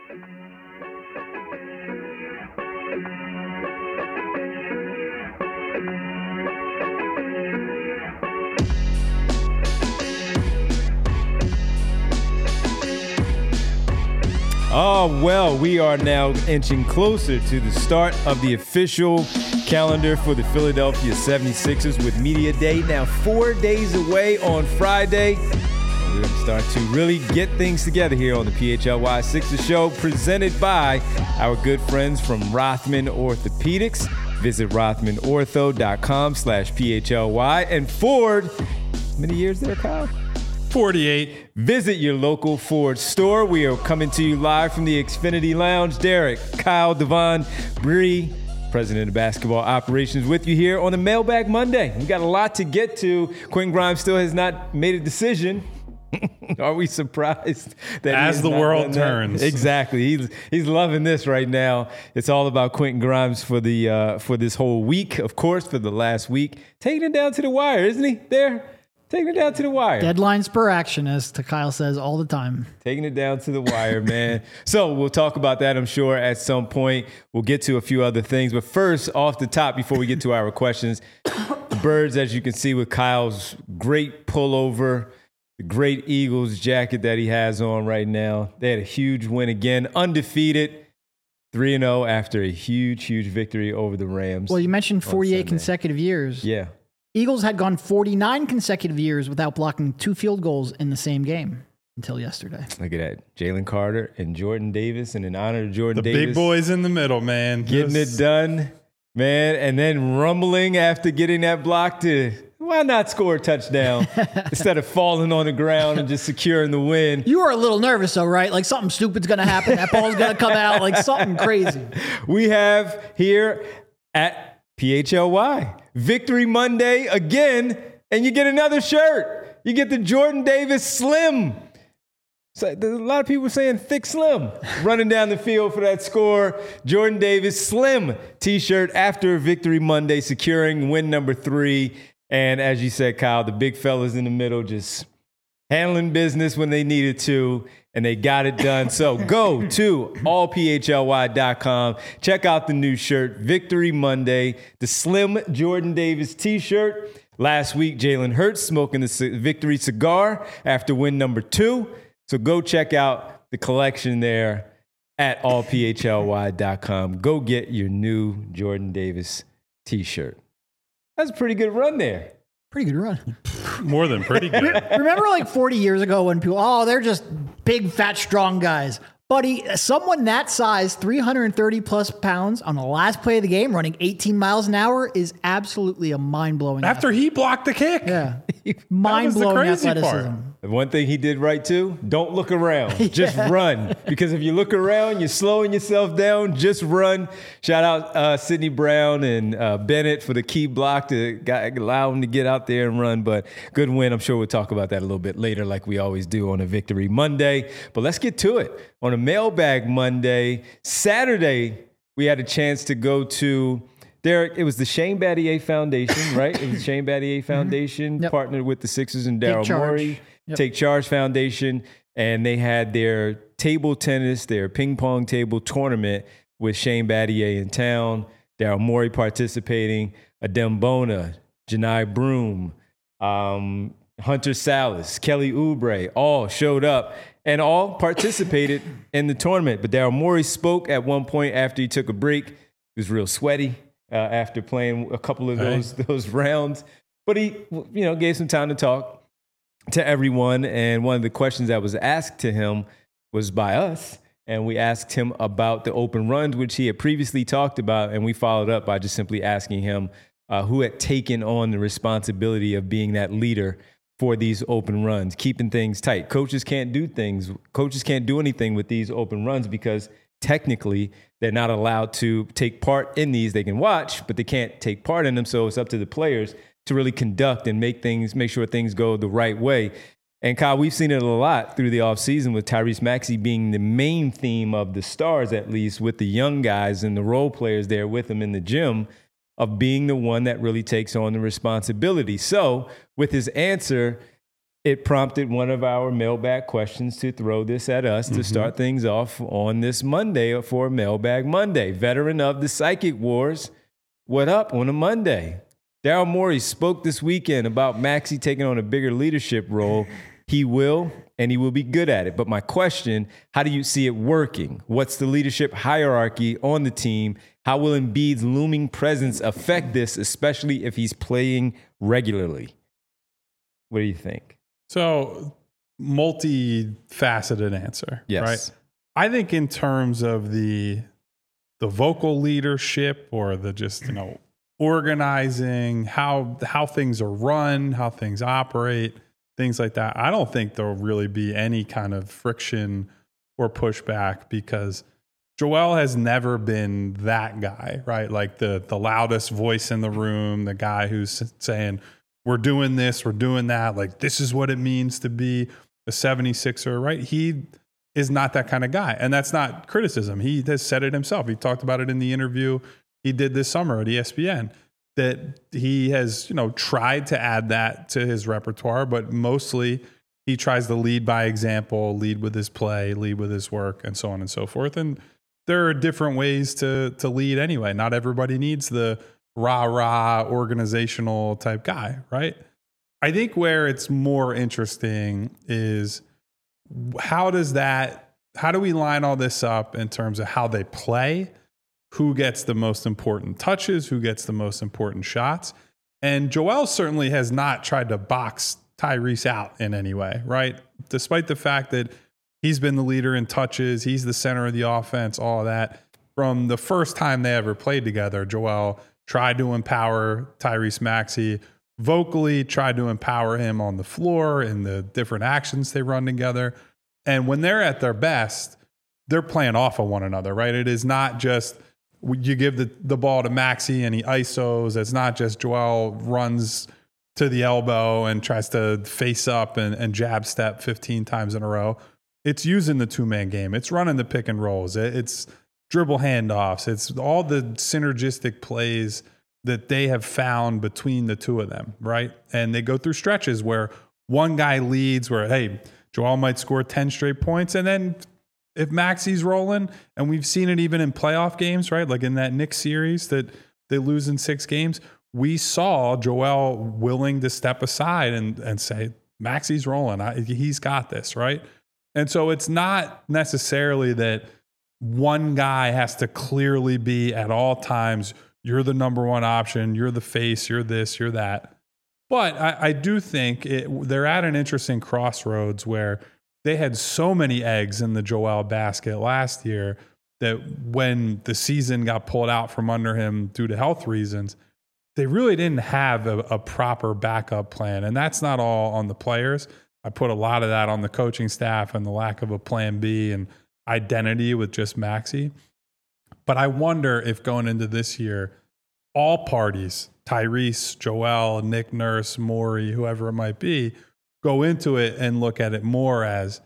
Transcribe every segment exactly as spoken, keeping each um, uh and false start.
Oh, well, we are now inching closer to the start of the official calendar for the Philadelphia seventy-sixers with Media Day now four days away on Friday. And we're going to start to really get things together here on the P H L Y Sixers Show, presented by our good friends from Rothman Orthopedics. Visit rothmanortho.com slash PHLY. And Ford, how many years there, Kyle? forty-eight. Visit your local Ford store. We are coming to you live from the Xfinity Lounge. Derek, Kyle, Devon, Bree, President of Basketball Operations, with you here on the Mailbag Monday. We got a lot to get to. Quentin Grimes still has not made a decision. Are we surprised that as the world turns? Exactly. He's he's loving this right now. It's all about Quentin Grimes for the uh, for this whole week, of course, for the last week, taking it down to the wire, isn't he? There. Taking it down to the wire. Deadline spur action, as Kyle says all the time. Taking it down to the wire, man. So we'll talk about that, I'm sure, at some point. We'll get to a few other things. But first, off the top, before we get to our questions, the Birds, as you can see with Kyle's great pullover, the great Eagles jacket that he has on right now. They had a huge win again, undefeated, three and oh after a huge, huge victory over the Rams. Well, you mentioned forty-eight consecutive years. Yeah. Eagles had gone forty-nine consecutive years without blocking two field goals in the same game until yesterday. Look at that. Jalen Carter and Jordan Davis, and in honor of Jordan the Davis. The big boys in the middle, man. Getting Just... it done, man. And then rumbling after getting that block to, why not score a touchdown instead of falling on the ground and just securing the win? You were a little nervous, though, right? Like something stupid's going to happen. That ball's going to come out, like something crazy. We have here at P H L Y Victory Monday again, and you get another shirt. You get the Jordan Davis Slim. So there's a lot of people saying thick slim running down the field for that score. Jordan Davis Slim t-shirt after Victory Monday, securing win number three. And as you said, Kyle, the big fellas in the middle just handling business when they needed to, and they got it done. So go to all P H L Y dot com. Check out the new shirt, Victory Monday, the Slim Jordan Davis t-shirt. Last week, Jalen Hurts smoking the victory cigar after win number two. So go check out the collection there at all P H L Y dot com. Go get your new Jordan Davis t-shirt. That's a pretty good run there. Pretty good run. More than pretty good. Remember like forty years ago when people, oh, they're just big, fat, strong guys. Buddy, someone that size, three hundred thirty plus pounds on the last play of the game, running eighteen miles an hour is absolutely a mind-blowing After athlete. he blocked the kick. Yeah. Mind-blowing athleticism. Part. One thing he did right too, don't look around. yeah. Just run. Because if you look around, you're slowing yourself down. Just run. Shout out uh, Sidney Brown and uh, Bennett for the key block to got, allow him to get out there and run. But good win. I'm sure we'll talk about that a little bit later like we always do on a Victory Monday. But let's get to it. On a Mailbag Monday, Saturday, we had a chance to go to Derek. It was the Shane Battier Foundation, right? It was the Shane Battier Foundation, mm-hmm. yep. partnered with the Sixers and Daryl Morey. Yep. Take Charge Foundation, and they had their table tennis, their ping pong table tournament with Shane Battier in town, Daryl Morey participating, Adem Bona, Janai Broom, um, Hunter Salas, Kelly Oubre, all showed up and all participated in the tournament. But Daryl Morey spoke at one point after he took a break. He was real sweaty uh, after playing a couple of those right. those rounds. But he, you know, gave some time to talk to everyone. And one of the questions that was asked to him was by us. And we asked him about the open runs, which he had previously talked about. And we followed up by just simply asking him uh, who had taken on the responsibility of being that leader for these open runs, keeping things tight. Coaches can't do things. Coaches can't do anything with these open runs because technically they're not allowed to take part in these. They can watch, but they can't take part in them. So it's up to the players to really conduct and make things, make sure things go the right way. And Kyle, we've seen it a lot through the offseason with Tyrese Maxey being the main theme of the Stars, at least with the young guys and the role players there with him in the gym, of being the one that really takes on the responsibility. So with his answer, it prompted one of our mailbag questions to throw this at us mm-hmm. to start things off on this Monday for Mailbag Monday. Veteran of the Psychic Wars, what up on a Monday? Daryl Morey spoke this weekend about Maxey taking on a bigger leadership role. He will, and he will be good at it. But my question, how do you see it working? What's the leadership hierarchy on the team? How will Embiid's looming presence affect this, especially if he's playing regularly? What do you think? So, multifaceted answer, yes. right? I think in terms of the the vocal leadership or the just, you know, organizing, how how things are run, how things operate, things like that, I don't think there'll really be any kind of friction or pushback because Joel has never been that guy, right? Like the the loudest voice in the room, the guy who's saying, we're doing this, we're doing that, like this is what it means to be a seventy-sixer, right? He is not that kind of guy. And that's not criticism. He has said it himself. He talked about it in the interview he did this summer at E S P N, that he has, you know, tried to add that to his repertoire, but mostly he tries to lead by example, lead with his play, lead with his work, and so on and so forth. And there are different ways to to lead anyway. Not everybody needs the rah-rah organizational type guy, right? I think where it's more interesting is how does that, how do we line all this up in terms of how they play? Who gets the most important touches? Who gets the most important shots? And Joel certainly has not tried to box Tyrese out in any way, right? Despite the fact that he's been the leader in touches, he's the center of the offense, all of that. From the first time they ever played together, Joel tried to empower Tyrese Maxey, vocally tried to empower him on the floor in the different actions they run together. And when they're at their best, they're playing off of one another, right? It is not just you give the, the ball to Maxey and he I S Os. It's not just Joel runs to the elbow and tries to face up and, and jab step fifteen times in a row. It's using the two-man game. It's running the pick and rolls. It's dribble handoffs. It's all the synergistic plays that they have found between the two of them, right? And they go through stretches where one guy leads where, hey, Joel might score ten straight points. And then if Maxey's rolling, and we've seen it even in playoff games, right? Like in that Knicks series that they lose in six games, we saw Joel willing to step aside and, and say, Maxey's rolling. I, he's got this, right? And so it's not necessarily that one guy has to clearly be at all times, you're the number one option, you're the face, you're this, you're that. But I, I do think it, they're at an interesting crossroads where they had so many eggs in the Joel basket last year that when the season got pulled out from under him due to health reasons, they really didn't have a, a proper backup plan. And that's not all on the players. I put a lot of that on the coaching staff and the lack of a plan B and identity with just Maxey. But I wonder if going into this year, all parties, Tyrese, Joel, Nick Nurse, Morey, whoever it might be, go into it and look at it more as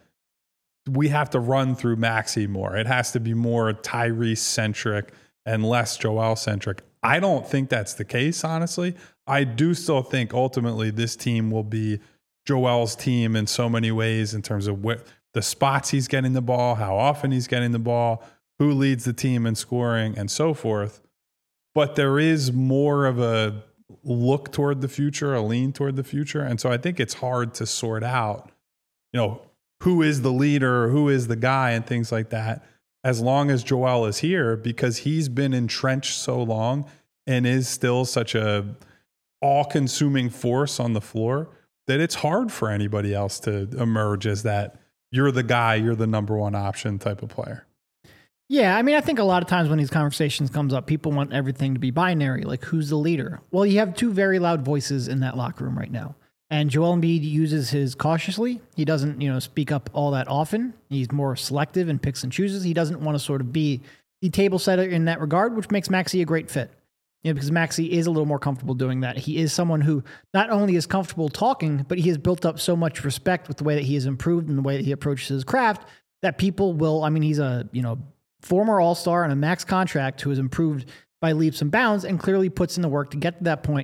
we have to run through Maxey more. It has to be more Tyrese-centric and less Joel-centric. I don't think that's the case, honestly. I do still think ultimately this team will be Joel's team in so many ways in terms of what the spots he's getting the ball, how often he's getting the ball, who leads the team in scoring, and so forth. But there is more of a look toward the future, a lean toward the future. And so I think it's hard to sort out, you know, who is the leader, who is the guy, and things like that, as long as Joel is here, because he's been entrenched so long and is still such a all-consuming force on the floor that it's hard for anybody else to emerge as that you're the guy, you're the number one option type of player. Yeah, I mean, I think a lot of times when these conversations comes up, people want everything to be binary, like who's the leader? Well, you have two very loud voices in that locker room right now. And Joel Embiid uses his cautiously. He doesn't, you know, speak up all that often. He's more selective and picks and chooses. He doesn't want to sort of be the table setter in that regard, which makes Maxey a great fit. You know, because Maxey is a little more comfortable doing that. He is someone who not only is comfortable talking, but he has built up so much respect with the way that he has improved and the way that he approaches his craft that people will, I mean, he's a, you know, former all-star on a max contract who has improved by leaps and bounds and clearly puts in the work to get to that point.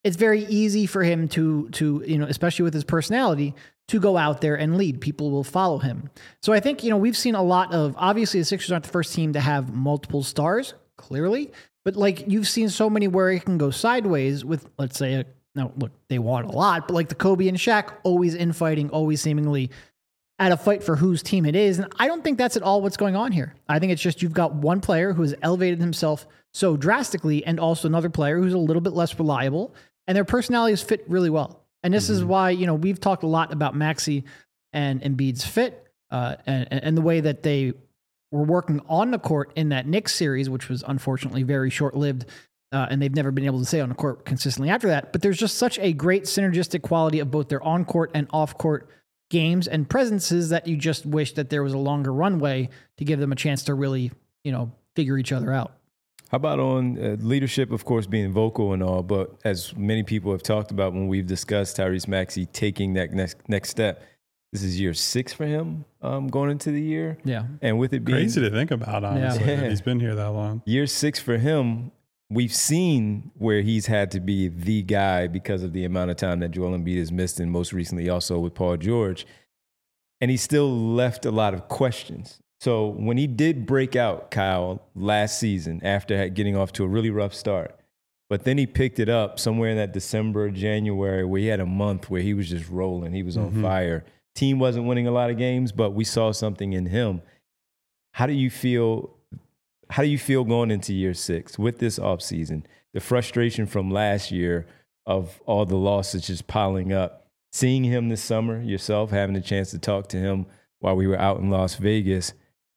it's very easy for him to, to, you know, especially with his personality, to go out there and lead. People will follow him. So I think, you know, we've seen a lot of, obviously the Sixers aren't the first team to have multiple stars, clearly, but like you've seen so many where it can go sideways with, let's say, a, now look, they want a lot, but like the Kobe and Shaq, always infighting, always seemingly at a fight for whose team it is. And I don't think that's at all what's going on here. I think it's just you've got one player who has elevated himself so drastically and also another player who's a little bit less reliable, and their personalities fit really well. And this mm-hmm. is why, you know, we've talked a lot about Maxey and Embiid's fit uh, and, and the way that they were working on the court in that Knicks series, which was unfortunately very short-lived, uh, and they've never been able to stay on the court consistently after that. But there's just such a great synergistic quality of both their on-court and off-court games and presences that you just wish that there was a longer runway to give them a chance to really, you know, figure each other out. How about on uh, leadership, of course, being vocal and all, but as many people have talked about when we've discussed Tyrese Maxey taking that next next step, this is year six for him um, going into the year. Yeah. And with it being crazy to think about, honestly, yeah. that he's been here that long. Year six for him, we've seen where he's had to be the guy because of the amount of time that Joel Embiid has missed, and most recently also with Paul George. And he still left a lot of questions. So when he did break out, Kyle, last season after getting off to a really rough start, but then he picked it up somewhere in that December, January, where he had a month where he was just rolling. He was mm-hmm. on fire. Team wasn't winning a lot of games, but we saw something in him. How do you feel? How do you feel going into year six with this offseason? The frustration from last year of all the losses just piling up. Seeing him this summer yourself, having a chance to talk to him while we were out in Las Vegas,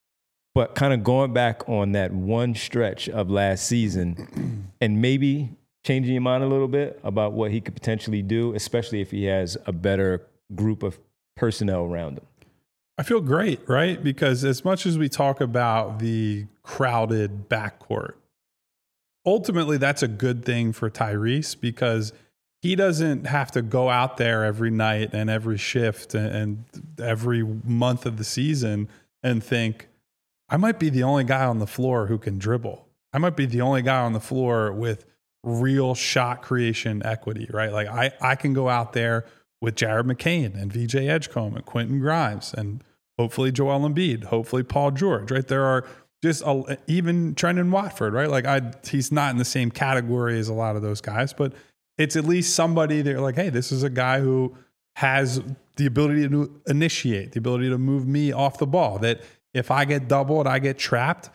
but kind of going back on that one stretch of last season and maybe changing your mind a little bit about what he could potentially do, especially if he has a better group of personnel around him. I feel great, right? Because as much as we talk about the crowded backcourt, ultimately that's a good thing for Tyrese because he doesn't have to go out there every night and every shift and every month of the season and think, I might be the only guy on the floor who can dribble. I might be the only guy on the floor with real shot creation equity, right? Like I, I can go out there with Jared McCain and V J Edgecombe and Quentin Grimes and hopefully Joel Embiid, hopefully Paul George, right? There are just a, even Trendon Watford, right? Like I, he's not in the same category as a lot of those guys, but it's at least somebody they're like, hey, this is a guy who has the ability to initiate, the ability to move me off the ball, that if I get doubled, I get trapped,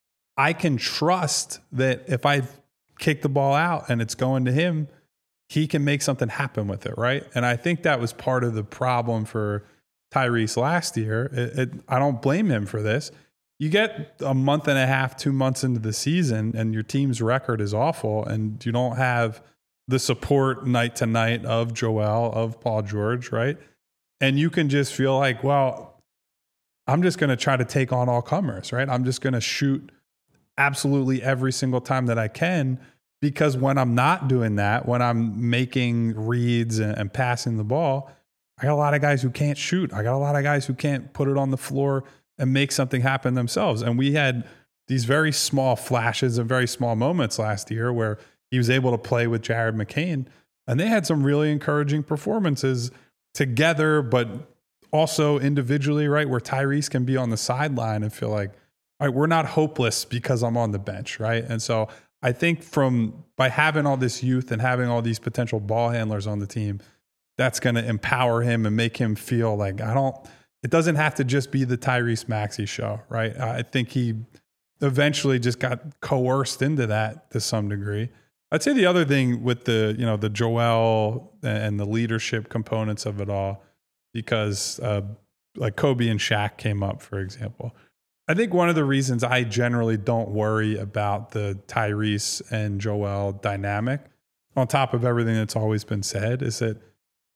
I can trust that if I kick the ball out and it's going to him, he can make something happen with it, right? And I think that was part of the problem for Tyrese last year. It, it, I don't blame him for this. You get a month and a half, two months into the season, and your team's record is awful, and you don't have the support night to night of Joel, of Paul George, right? And you can just feel like, well, I'm just going to try to take on all comers, right? I'm just going to shoot absolutely every single time that I can, because when I'm not doing that, when I'm making reads and, and passing the ball, I got a lot of guys who can't shoot. I got a lot of guys who can't put it on the floor and make something happen themselves. And we had these very small flashes and very small moments last year where he was able to play with Jared McCain, and they had some really encouraging performances together, but also individually, right? Where Tyrese can be on the sideline and feel like, all right, we're not hopeless because I'm on the bench, right? And so I think from by having all this youth and having all these potential ball handlers on the team, that's going to empower him and make him feel like I don't, it doesn't have to just be the Tyrese Maxey show, right? I think he eventually just got coerced into that to some degree. I'd say the other thing with the, you know, the Joel and the leadership components of it all, because uh, like Kobe and Shaq came up, for example. I think one of the reasons I generally don't worry about the Tyrese and Joel dynamic, on top of everything that's always been said, is that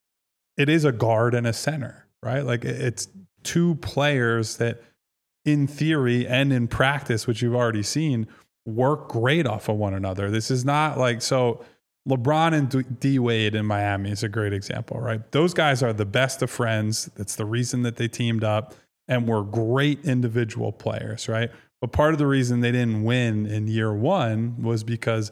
it is a guard and a center, right? Like it's two players that in theory and in practice, which you've already seen, work great off of one another. This is not like, so LeBron and D Wade in Miami is a great example, right? Those guys are the best of friends. That's the reason that they teamed up and were great individual players, right? But part of the reason they didn't win in year one was because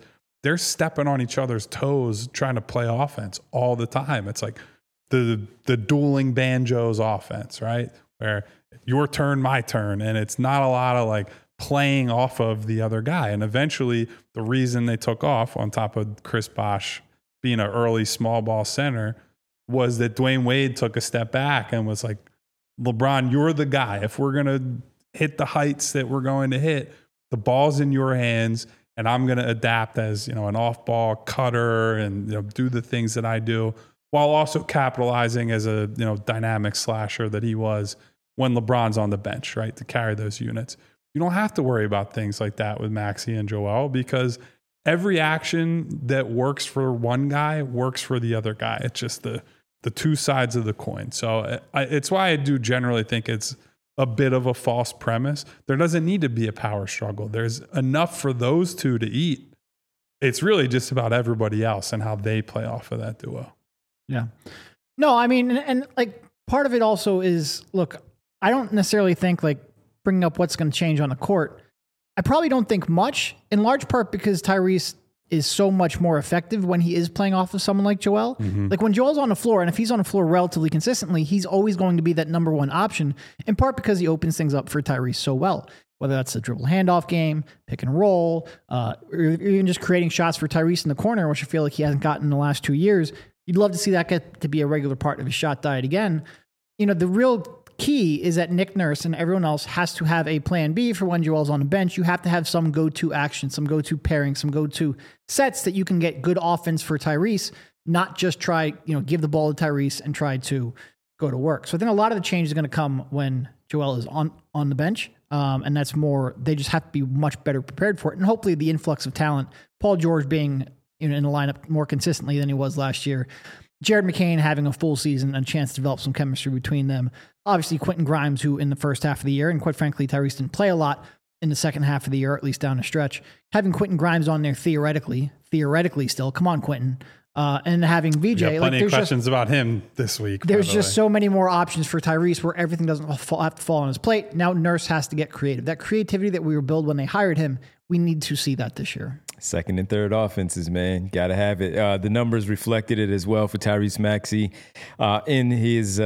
they're stepping on each other's toes trying to play offense all the time. It's like the the dueling banjos offense, right? Where your turn, my turn, and it's not a lot of like playing off of the other guy. And eventually the reason they took off on top of Chris Bosh being an early small ball center was that Dwayne Wade took a step back and was like, LeBron, you're the guy. If we're going to hit the heights that we're going to hit, the ball's in your hands, and I'm going to adapt as, you know, an off-ball cutter and, you know, do the things that I do while also capitalizing as a, you know, dynamic slasher that he was when LeBron's on the bench, right, to carry those units. You don't have to worry about things like that with Maxey and Joel because every action that works for one guy works for the other guy. It's just the the two sides of the coin. So I, it's why I do generally think it's a bit of a false premise. There doesn't need to be a power struggle. There's enough for those two to eat. It's really just about everybody else and how they play off of that duo. Yeah. No, I mean, and, and like part of it also is, look, I don't necessarily think like bringing up what's going to change on the court. I probably don't think much, in large part because Tyrese is so much more effective when he is playing off of someone like Joel. Mm-hmm. Like when Joel's on the floor, and if he's on the floor relatively consistently, he's always going to be that number one option, in part because he opens things up for Tyrese so well. Whether that's the dribble handoff game, pick and roll, uh, or even just creating shots for Tyrese in the corner, which I feel like he hasn't gotten in the last two years. You'd love to see that get to be a regular part of his shot diet again. You know, the real key is that Nick Nurse and everyone else has to have a plan B for when Joel's on the bench. You have to have some go-to action, some go-to pairing, some go-to sets that you can get good offense for Tyrese, not just try, you know, give the ball to Tyrese and try to go to work. So I think a lot of the change is going to come when Joel is on, on the bench. Um, and that's more, they just have to be much better prepared for it. And hopefully the influx of talent, Paul George being you know, in the lineup more consistently than he was last year, Jared McCain having a full season and a chance to develop some chemistry between them. Obviously, Quentin Grimes, who in the first half of the year, and quite frankly, Tyrese didn't play a lot in the second half of the year, or at least down the stretch. Having Quentin Grimes on there theoretically, theoretically still, come on, Quentin. Uh, and having V J. We got plenty like, of questions just, about him this week. There's the just way. so many more options for Tyrese where everything doesn't fall, have to fall on his plate. Now Nurse has to get creative. That creativity that we were built when they hired him, we need to see that this year. Second and third offenses, man. Got to have it. Uh, the numbers reflected it as well for Tyrese Maxey. Uh, in his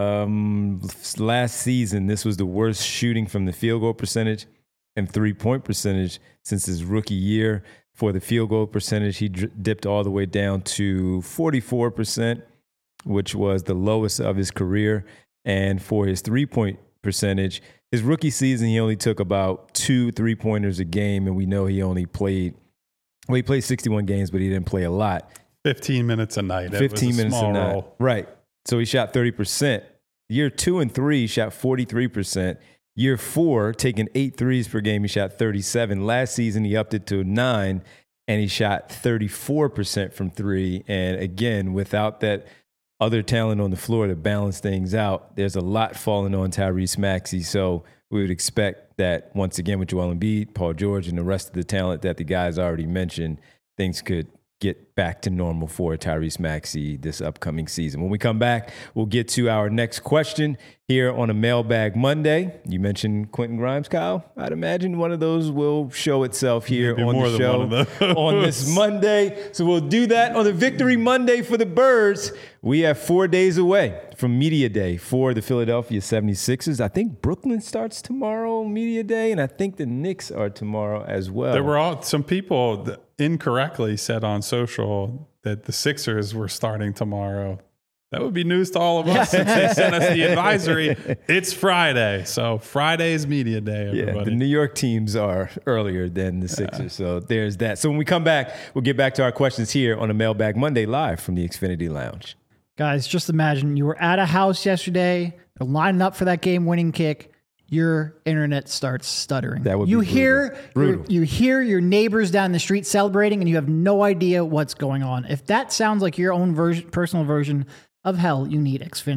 um, last season, this was the worst shooting from the field goal percentage and three-point percentage since his rookie year. For the field goal percentage, he d- dipped all the way down to forty-four percent, which was the lowest of his career. And for his three-point percentage, his rookie season, he only took about two three-pointers a game, and we know he only played – well, he played sixty-one games, but he didn't play a lot. fifteen minutes a night. fifteen it was a minutes small a night. role. Right. So he shot thirty percent. Year two and three, he shot forty-three percent. Year four, taking eight threes per game, he shot thirty-seven. Last season, he upped it to nine, and he shot thirty-four percent from three. And again, without that other talent on the floor to balance things out, there's a lot falling on Tyrese Maxey. So we would expect that once again with Joel Embiid, Paul George, and the rest of the talent that the guys already mentioned, things could get back to normal for Tyrese Maxey this upcoming season. When we come back, we'll get to our next question here on a Mailbag Monday. You mentioned Quentin Grimes, Kyle. I'd imagine one of those will show itself here Maybe on more the than one of show those. on this Monday. So we'll do that on the Victory Monday for the Birds. We have four days away from Media Day for the Philadelphia seventy-sixers. I think Brooklyn starts tomorrow, Media Day, and I think the Knicks are tomorrow as well. There were all, some people that incorrectly said on social that the Sixers were starting tomorrow. That would be news to all of us since they sent us the advisory. It's Friday. So Friday's media day, everybody. Yeah, the New York teams are earlier than the Sixers. Yeah. So there's that. So when we come back, we'll get back to our questions here on a Mailbag Monday live from the Xfinity Lounge. Guys, just imagine you were at a house yesterday, you're lining up for that game-winning kick. Your internet starts stuttering. That would you be hear brutal. You hear your neighbors down the street celebrating, and you have no idea what's going on. If that sounds like your own version, personal version of hell, you need Xfinity.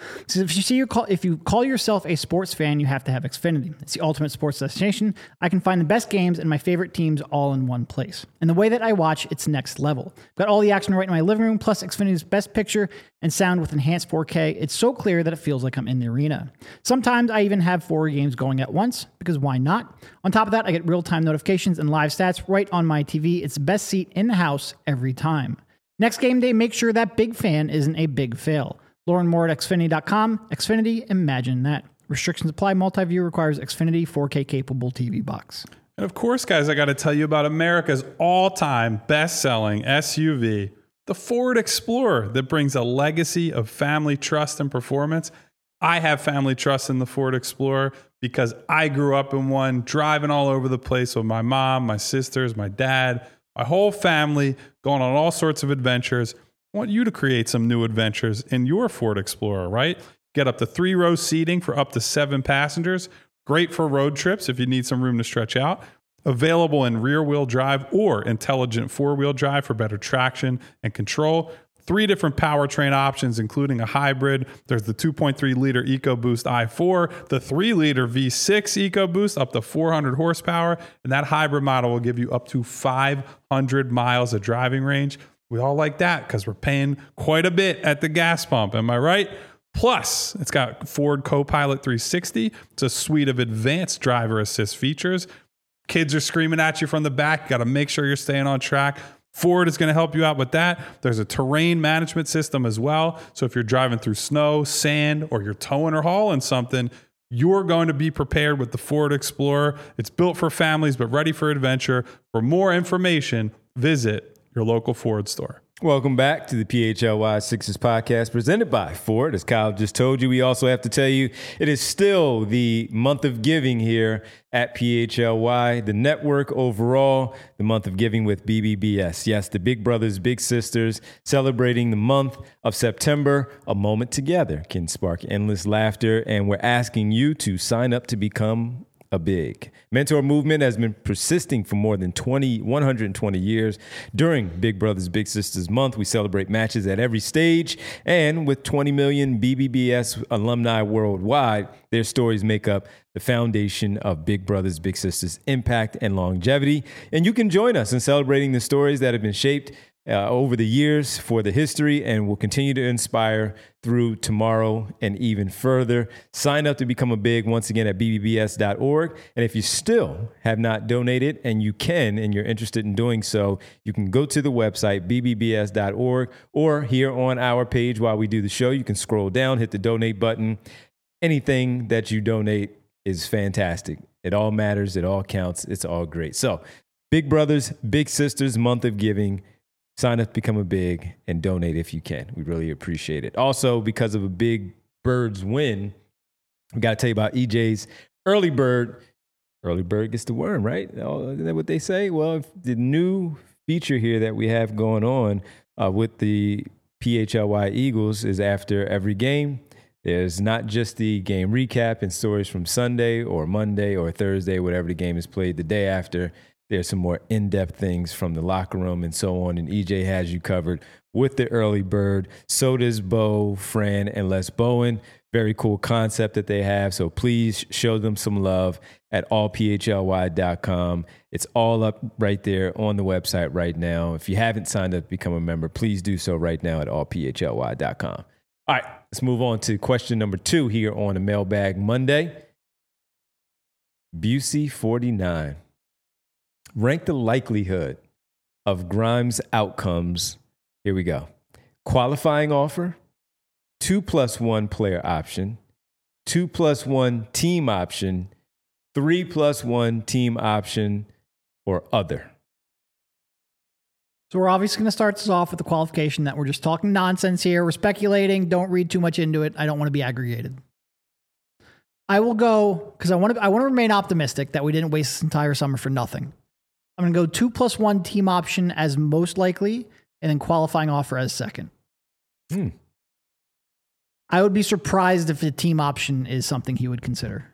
So if you see you call, if you call yourself a sports fan, you have to have Xfinity. It's the ultimate sports destination. I can find the best games and my favorite teams all in one place. And the way that I watch, it's next level. Got all the action right in my living room, plus Xfinity's best picture and sound with enhanced four K. It's so clear that it feels like I'm in the arena. Sometimes I even have four games going at once, because why not? On top of that, I get real-time notifications and live stats right on my T V. It's the best seat in the house every time. Next game day, make sure that big fan isn't a big fail. Learn more at Xfinity dot com. Xfinity, imagine that. Restrictions apply. Multi-view requires Xfinity four K capable T V box. And of course, guys, I got to tell you about America's all-time best-selling S U V, the Ford Explorer, that brings a legacy of family trust and performance. I have family trust in the Ford Explorer because I grew up in one, driving all over the place with my mom, my sisters, my dad, my whole family, going on all sorts of adventures. I want you to create some new adventures in your Ford Explorer, right? Get up to three row seating for up to seven passengers. Great for road trips if you need some room to stretch out. Available in rear-wheel drive or intelligent four-wheel drive for better traction and control. Three different powertrain options, including a hybrid. There's the two point three liter EcoBoost i four, the three liter V six EcoBoost up to four hundred horsepower, and that hybrid model will give you up to five hundred miles of driving range. We all like that because we're paying quite a bit at the gas pump. Am I right? Plus, it's got Ford Copilot three sixty. It's a suite of advanced driver assist features. Kids are screaming at you from the back. You got to make sure you're staying on track. Ford is going to help you out with that. There's a terrain management system as well. So if you're driving through snow, sand, or you're towing or hauling something, you're going to be prepared with the Ford Explorer. It's built for families, but ready for adventure. For more information, visit your local Ford store. Welcome back to the P H L Y Sixers podcast presented by Ford. As Kyle just told you, we also have to tell you it is still the month of giving here at P H L Y, the network overall, the month of giving with B B B S. Yes, the Big Brothers, Big Sisters, celebrating the month of September. A moment together can spark endless laughter, and we're asking you to sign up to become a big. Mentor movement has been persisting for more than twenty, one hundred twenty years. During Big Brothers Big Sisters month, we celebrate matches at every stage, and with twenty million B B B S alumni worldwide, their stories make up the foundation of Big Brothers Big Sisters impact and longevity. And you can join us in celebrating the stories that have been shaped Uh, over the years for the history and will continue to inspire through tomorrow and even further. Sign up to become a big once again at B B B S dot org. And if you still have not donated, and you can, and you're interested in doing so, you can go to the website, B B B S dot org, or here on our page while we do the show, you can scroll down, hit the donate button. Anything that you donate is fantastic. It all matters. It all counts. It's all great. So Big Brothers, Big Sisters, month of giving. Sign up, become a big, and donate if you can. We really appreciate it. Also, because of a Big Birds win, we got to tell you about E J's Early Bird. Early Bird gets the worm, right? Oh, isn't that what they say? Well, the new feature here that we have going on uh, with the P H L Y Eagles is after every game. There's not just the game recap and stories from Sunday or Monday or Thursday, whatever the game is played the day after. There's some more in-depth things from the locker room and so on. And E J has you covered with the Early Bird. So does Bo, Fran, and Les Bowen. Very cool concept that they have. So please show them some love at all P H L Y dot com. It's all up right there on the website right now. If you haven't signed up to become a member, please do so right now at all P H L Y dot com. All right, let's move on to question number two here on the Mailbag Monday. Busey forty-nine. Rank the likelihood of Grimes' outcomes. Here we go. Qualifying offer, two plus one player option, two plus one team option, three plus one team option, or other. So we're obviously going to start this off with the qualification that we're just talking nonsense here. We're speculating. Don't read too much into it. I don't want to be aggregated. I will go, because I want to I want to remain optimistic that we didn't waste this entire summer for nothing. I'm going to go two plus one team option as most likely, and then qualifying offer as second. Hmm. I would be surprised if the team option is something he would consider.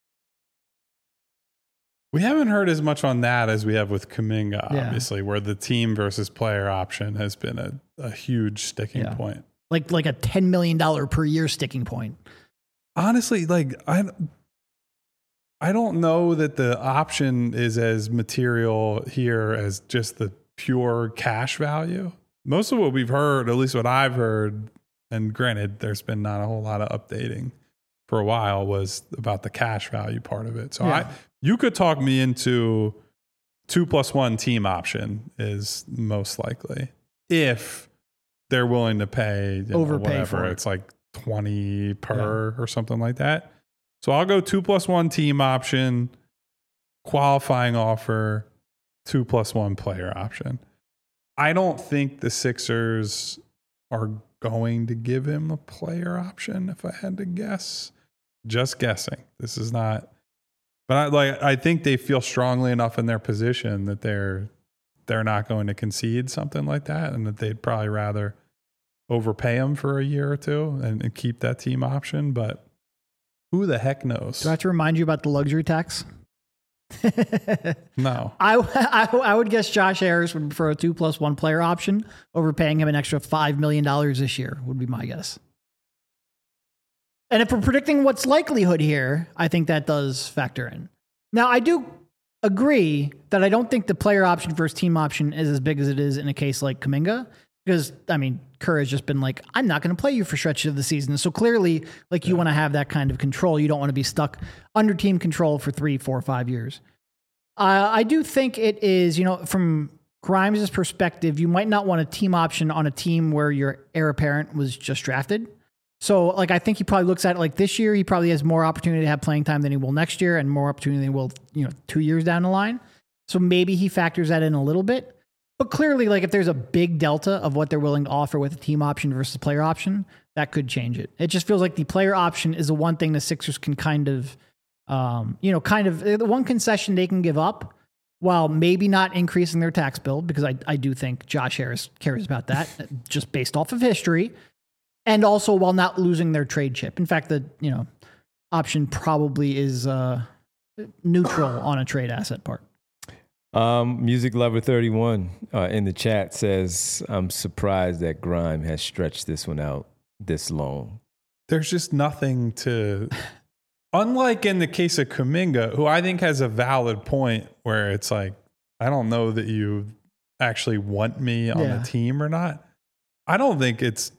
We haven't heard as much on that as we have with Kuminga, Yeah. obviously, where the team versus player option has been a, a huge sticking Yeah. point. like like a ten million dollars per year sticking point. Honestly, like I, I don't know that the option is as material here as just the pure cash value. Most of what we've heard, at least what I've heard, and granted, there's been not a whole lot of updating for a while, was about the cash value part of it. So Yeah. I, you could talk me into two plus one team option is most likely if they're willing to pay you know, Overpay whatever. for it. It's like twenty per or something like that. So I'll go two plus one team option, qualifying offer, two plus one player option. I don't think the Sixers are going to give him a player option if I had to guess. Just guessing. This is not, but I like I think they feel strongly enough in their position that they're they're not going to concede something like that, and that they'd probably rather overpay him for a year or two and, and keep that team option. But who the heck knows? Do I have to remind you about the luxury tax? No. I, I, I would guess Josh Harris would prefer a two plus one player option over paying him an extra five million dollars this year, would be my guess. And if we're predicting what's likelihood here, I think that does factor in. Now, I do agree that I don't think the player option versus team option is as big as it is in a case like Kuminga. Because, I mean, Kerr has just been like, I'm not going to play you for stretches of the season. So clearly, like, you want to have that kind of control. You don't want to be stuck under team control for three, four, five years. Uh, I do think it is, you know, from Grimes' perspective, you might not want a team option on a team where your heir apparent was just drafted. So, like, I think he probably looks at it like this year, he probably has more opportunity to have playing time than he will next year and more opportunity than he will, you know, two years down the line. So maybe he factors that in a little bit. But clearly, like, if there's a big delta of what they're willing to offer with a team option versus player option, that could change it. It just feels like the player option is the one thing the Sixers can kind of, um, you know, kind of the one concession they can give up while maybe not increasing their tax bill, because I, I do think Josh Harris cares about that just based off of history. And also while not losing their trade chip. In fact, the, you know, option probably is uh, neutral on a trade asset part. Um, Music Lover thirty-one uh, in the chat says, I'm surprised that Grime has stretched this one out this long. There's just nothing to, unlike in the case of Kuminga, who I think has a valid point where it's like, I don't know that you actually want me on Yeah. the team or not. I don't think it's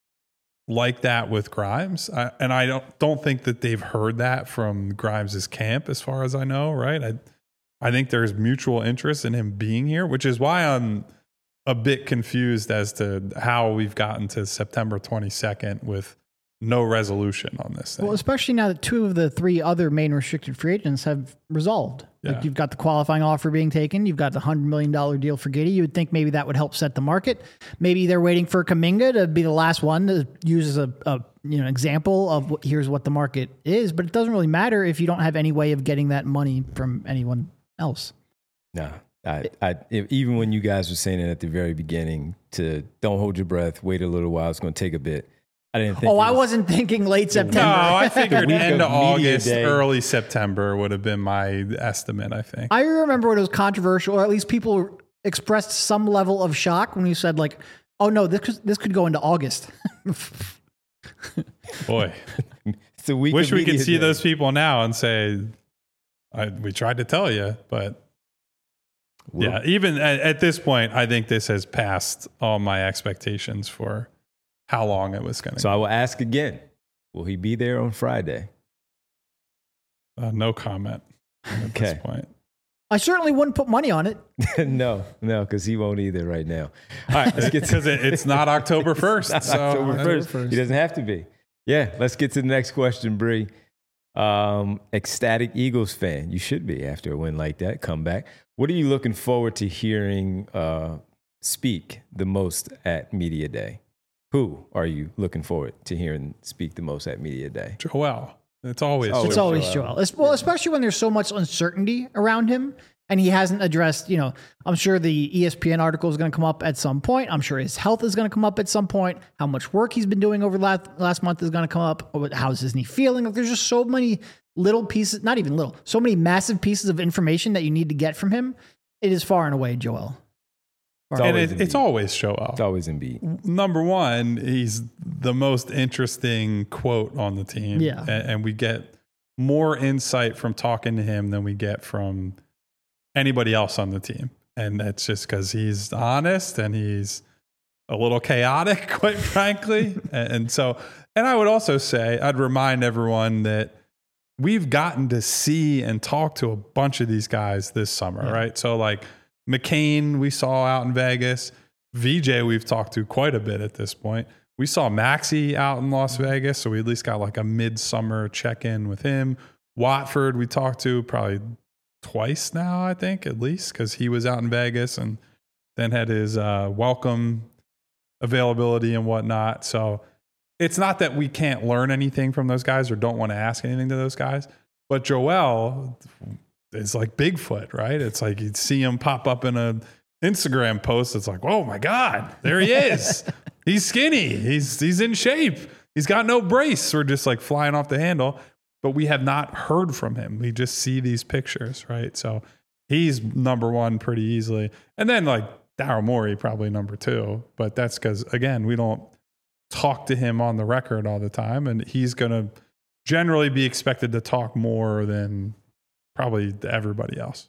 like that with Grimes. I, and I don't, don't think that they've heard that from Grimes's camp as far as I know, right? I, I think there's mutual interest in him being here, which is why I'm a bit confused as to how we've gotten to September twenty-second with no resolution on this thing. Well, especially now that two of the three other main restricted free agents have resolved. Yeah. Like, you've got the qualifying offer being taken. You've got the one hundred million dollars deal for Giddey. You would think maybe that would help set the market. Maybe they're waiting for Kuminga to be the last one to use as a, a you know example of what, here's what the market is. But it doesn't really matter if you don't have any way of getting that money from anyone else. Nah, I, I, if, even when you guys were saying it at the very beginning to don't hold your breath, wait a little while, it's going to take a bit. I didn't think. Oh, it I was- wasn't thinking late September. No, I figured week end of of media August, day. early September would have been my estimate, I think. I remember when it was controversial, or at least people expressed some level of shock when you said, like, oh no, this could, this could go into August. Boy, It's a week wish of we could media see day. those people now and say, I, we tried to tell you, but Well, yeah, even at, at this point, I think this has passed all my expectations for how long it was going to So I will ask again, will he be there on Friday? uh, no comment at Okay. this point. I certainly wouldn't put money on it. no, no, because he won't either right now. All right, let's get to Because it, it's not October first. Not so October first. first. He doesn't have to be. Yeah, let's get to the next question, Bree. Um, ecstatic Eagles fan. You should be after a win like that, comeback. What are you looking forward to hearing uh, speak the most at Media Day? Who are you looking forward to hearing speak the most at Media Day? Joel. It's always It's It's Joel. always Joel. Joel. Es- Well, especially when there's so much uncertainty around him and he hasn't addressed, you know, I'm sure the E S P N article is going to come up at some point. I'm sure his health is going to come up at some point. How much work he's been doing over the last, last month is going to come up. How's his knee feeling? Like, there's just so many little pieces, not even little, so many massive pieces of information that you need to get from him. It is far and away Joel. far. And always it, it's Embiid. always Joel. It's always Embiid. Number one, he's the most interesting quote on the team. Yeah. And, and we get more insight from talking to him than we get from anybody else on the team. And that's just because he's honest and he's a little chaotic, quite frankly. and, and so, and I would also say, I'd remind everyone that we've gotten to see and talk to a bunch of these guys this summer, yeah. right? So like McCain, we saw out in Vegas. V J, we've talked to quite a bit at this point. We saw Maxey out in Las Vegas, so we at least got like a midsummer check-in with him. Watford, we talked to probably twice now, I think, at least, because he was out in Vegas and then had his uh, welcome availability and whatnot. So it's not that we can't learn anything from those guys or don't want to ask anything to those guys, but Joel is like Bigfoot, right? It's like you'd see him pop up in a Instagram post. It's like, oh my God, there he is. He's skinny. He's he's in shape. He's got no brace. We're just like flying off the handle, but we have not heard from him. We just see these pictures, right? So he's number one pretty easily. And then like Daryl Morey, probably number two, but that's because, again, we don't talk to him on the record all the time, and he's going to generally be expected to talk more than probably everybody else.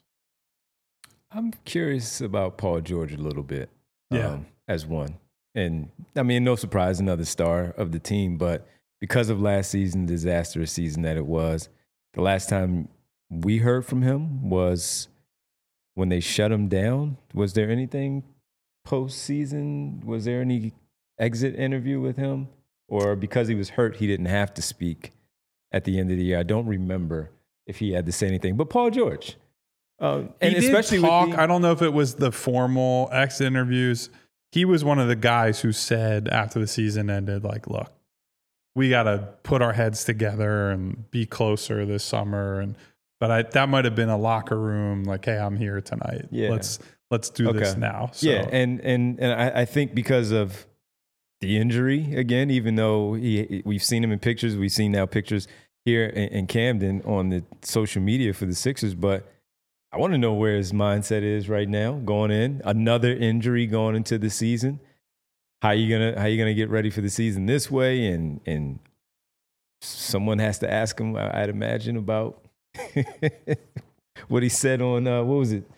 I'm curious about Paul George a little bit, yeah, um, as one. And I mean, no surprise, another star of the team, but because of last season, disastrous season that it was, the last time we heard from him was when they shut him down. Was there anything postseason? Was there any exit interview with him? Or because he was hurt, he didn't have to speak at the end of the year? I don't remember if he had to say anything. But Paul George, um, and he especially did talk, with the, I don't know if it was the formal exit interviews. He was one of the guys who said after the season ended, like, look, we got to put our heads together and be closer this summer. And but I, that might have been a locker room, like, hey, I'm here tonight. Yeah. Let's let's do okay. this now. So. Yeah, and and and I, I think because of the injury again, even though he, we've seen him in pictures, we've seen now pictures here in, in Camden on the social media for the Sixers, but I want to know where his mindset is right now going in. Another injury going into the season. How you gonna how you gonna get ready for the season this way? And and someone has to ask him, I'd imagine, about what he said on uh, what was it,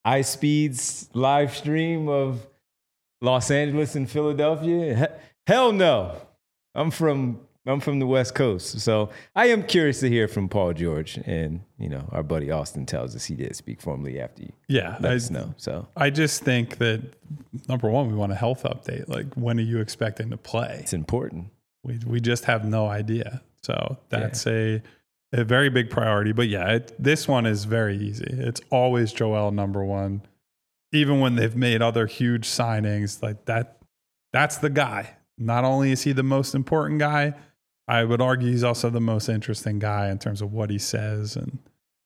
iSpeed's live stream of Los Angeles and Philadelphia. He- hell no, I'm from I'm from the West Coast, so I am curious to hear from Paul George. And you know, our buddy Austin tells us he did speak formally after you. Yeah, let I, us know. So I just think that number one, we want a health update. Like, when are you expecting to play? it's important. We we just have no idea. So that's yeah. a a very big priority. But yeah, it, this one is very easy. It's always Joel number one. Even when they've made other huge signings, like that, that's the guy. Not only is he the most important guy, I would argue he's also the most interesting guy in terms of what he says and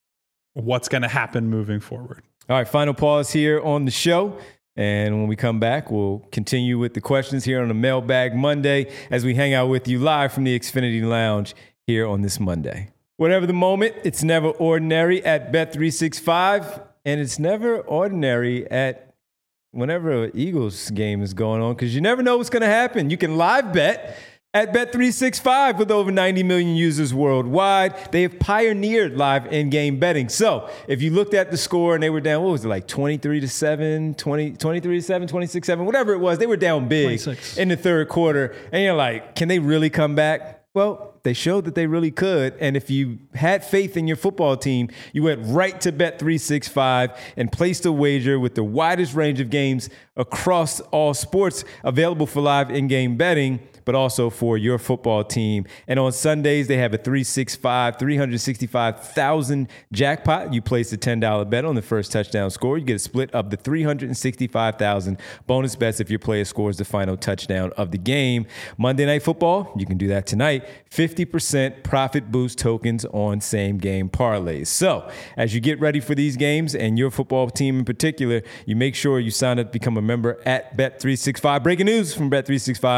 what's going to happen moving forward. All right, final pause here on the show. And when we come back, we'll continue with the questions here on the Mailbag Monday as we hang out with you live from the Xfinity Lounge here on this Monday. Whatever the moment, it's never ordinary at Bet three sixty-five, and it's never ordinary at whenever an Eagles game is going on, because you never know what's going to happen. You can live bet at Bet three sixty-five with over ninety million users worldwide. They have pioneered live in-game betting. So if you looked at the score and they were down, what was it, like twenty-three to seven, twenty, twenty-three to seven, twenty-six to seven, whatever it was, they were down big twenty-six in the third quarter. And you're like, can they really come back? Well, they showed that they really could. And if you had faith in your football team, you went right to Bet three sixty-five and placed a wager with the widest range of games across all sports available for live in-game betting, but also for your football team. And on Sundays, they have a three sixty-five, three hundred sixty-five thousand jackpot. You place a ten dollars bet on the first touchdown score. You get a split of the three hundred sixty-five thousand bonus bets if your player scores the final touchdown of the game. Monday Night Football, you can do that tonight. fifty percent profit boost tokens on same game parlays. So as you get ready for these games and your football team in particular, you make sure you sign up to become a member at Bet three sixty-five. Breaking news from Bet three sixty-five.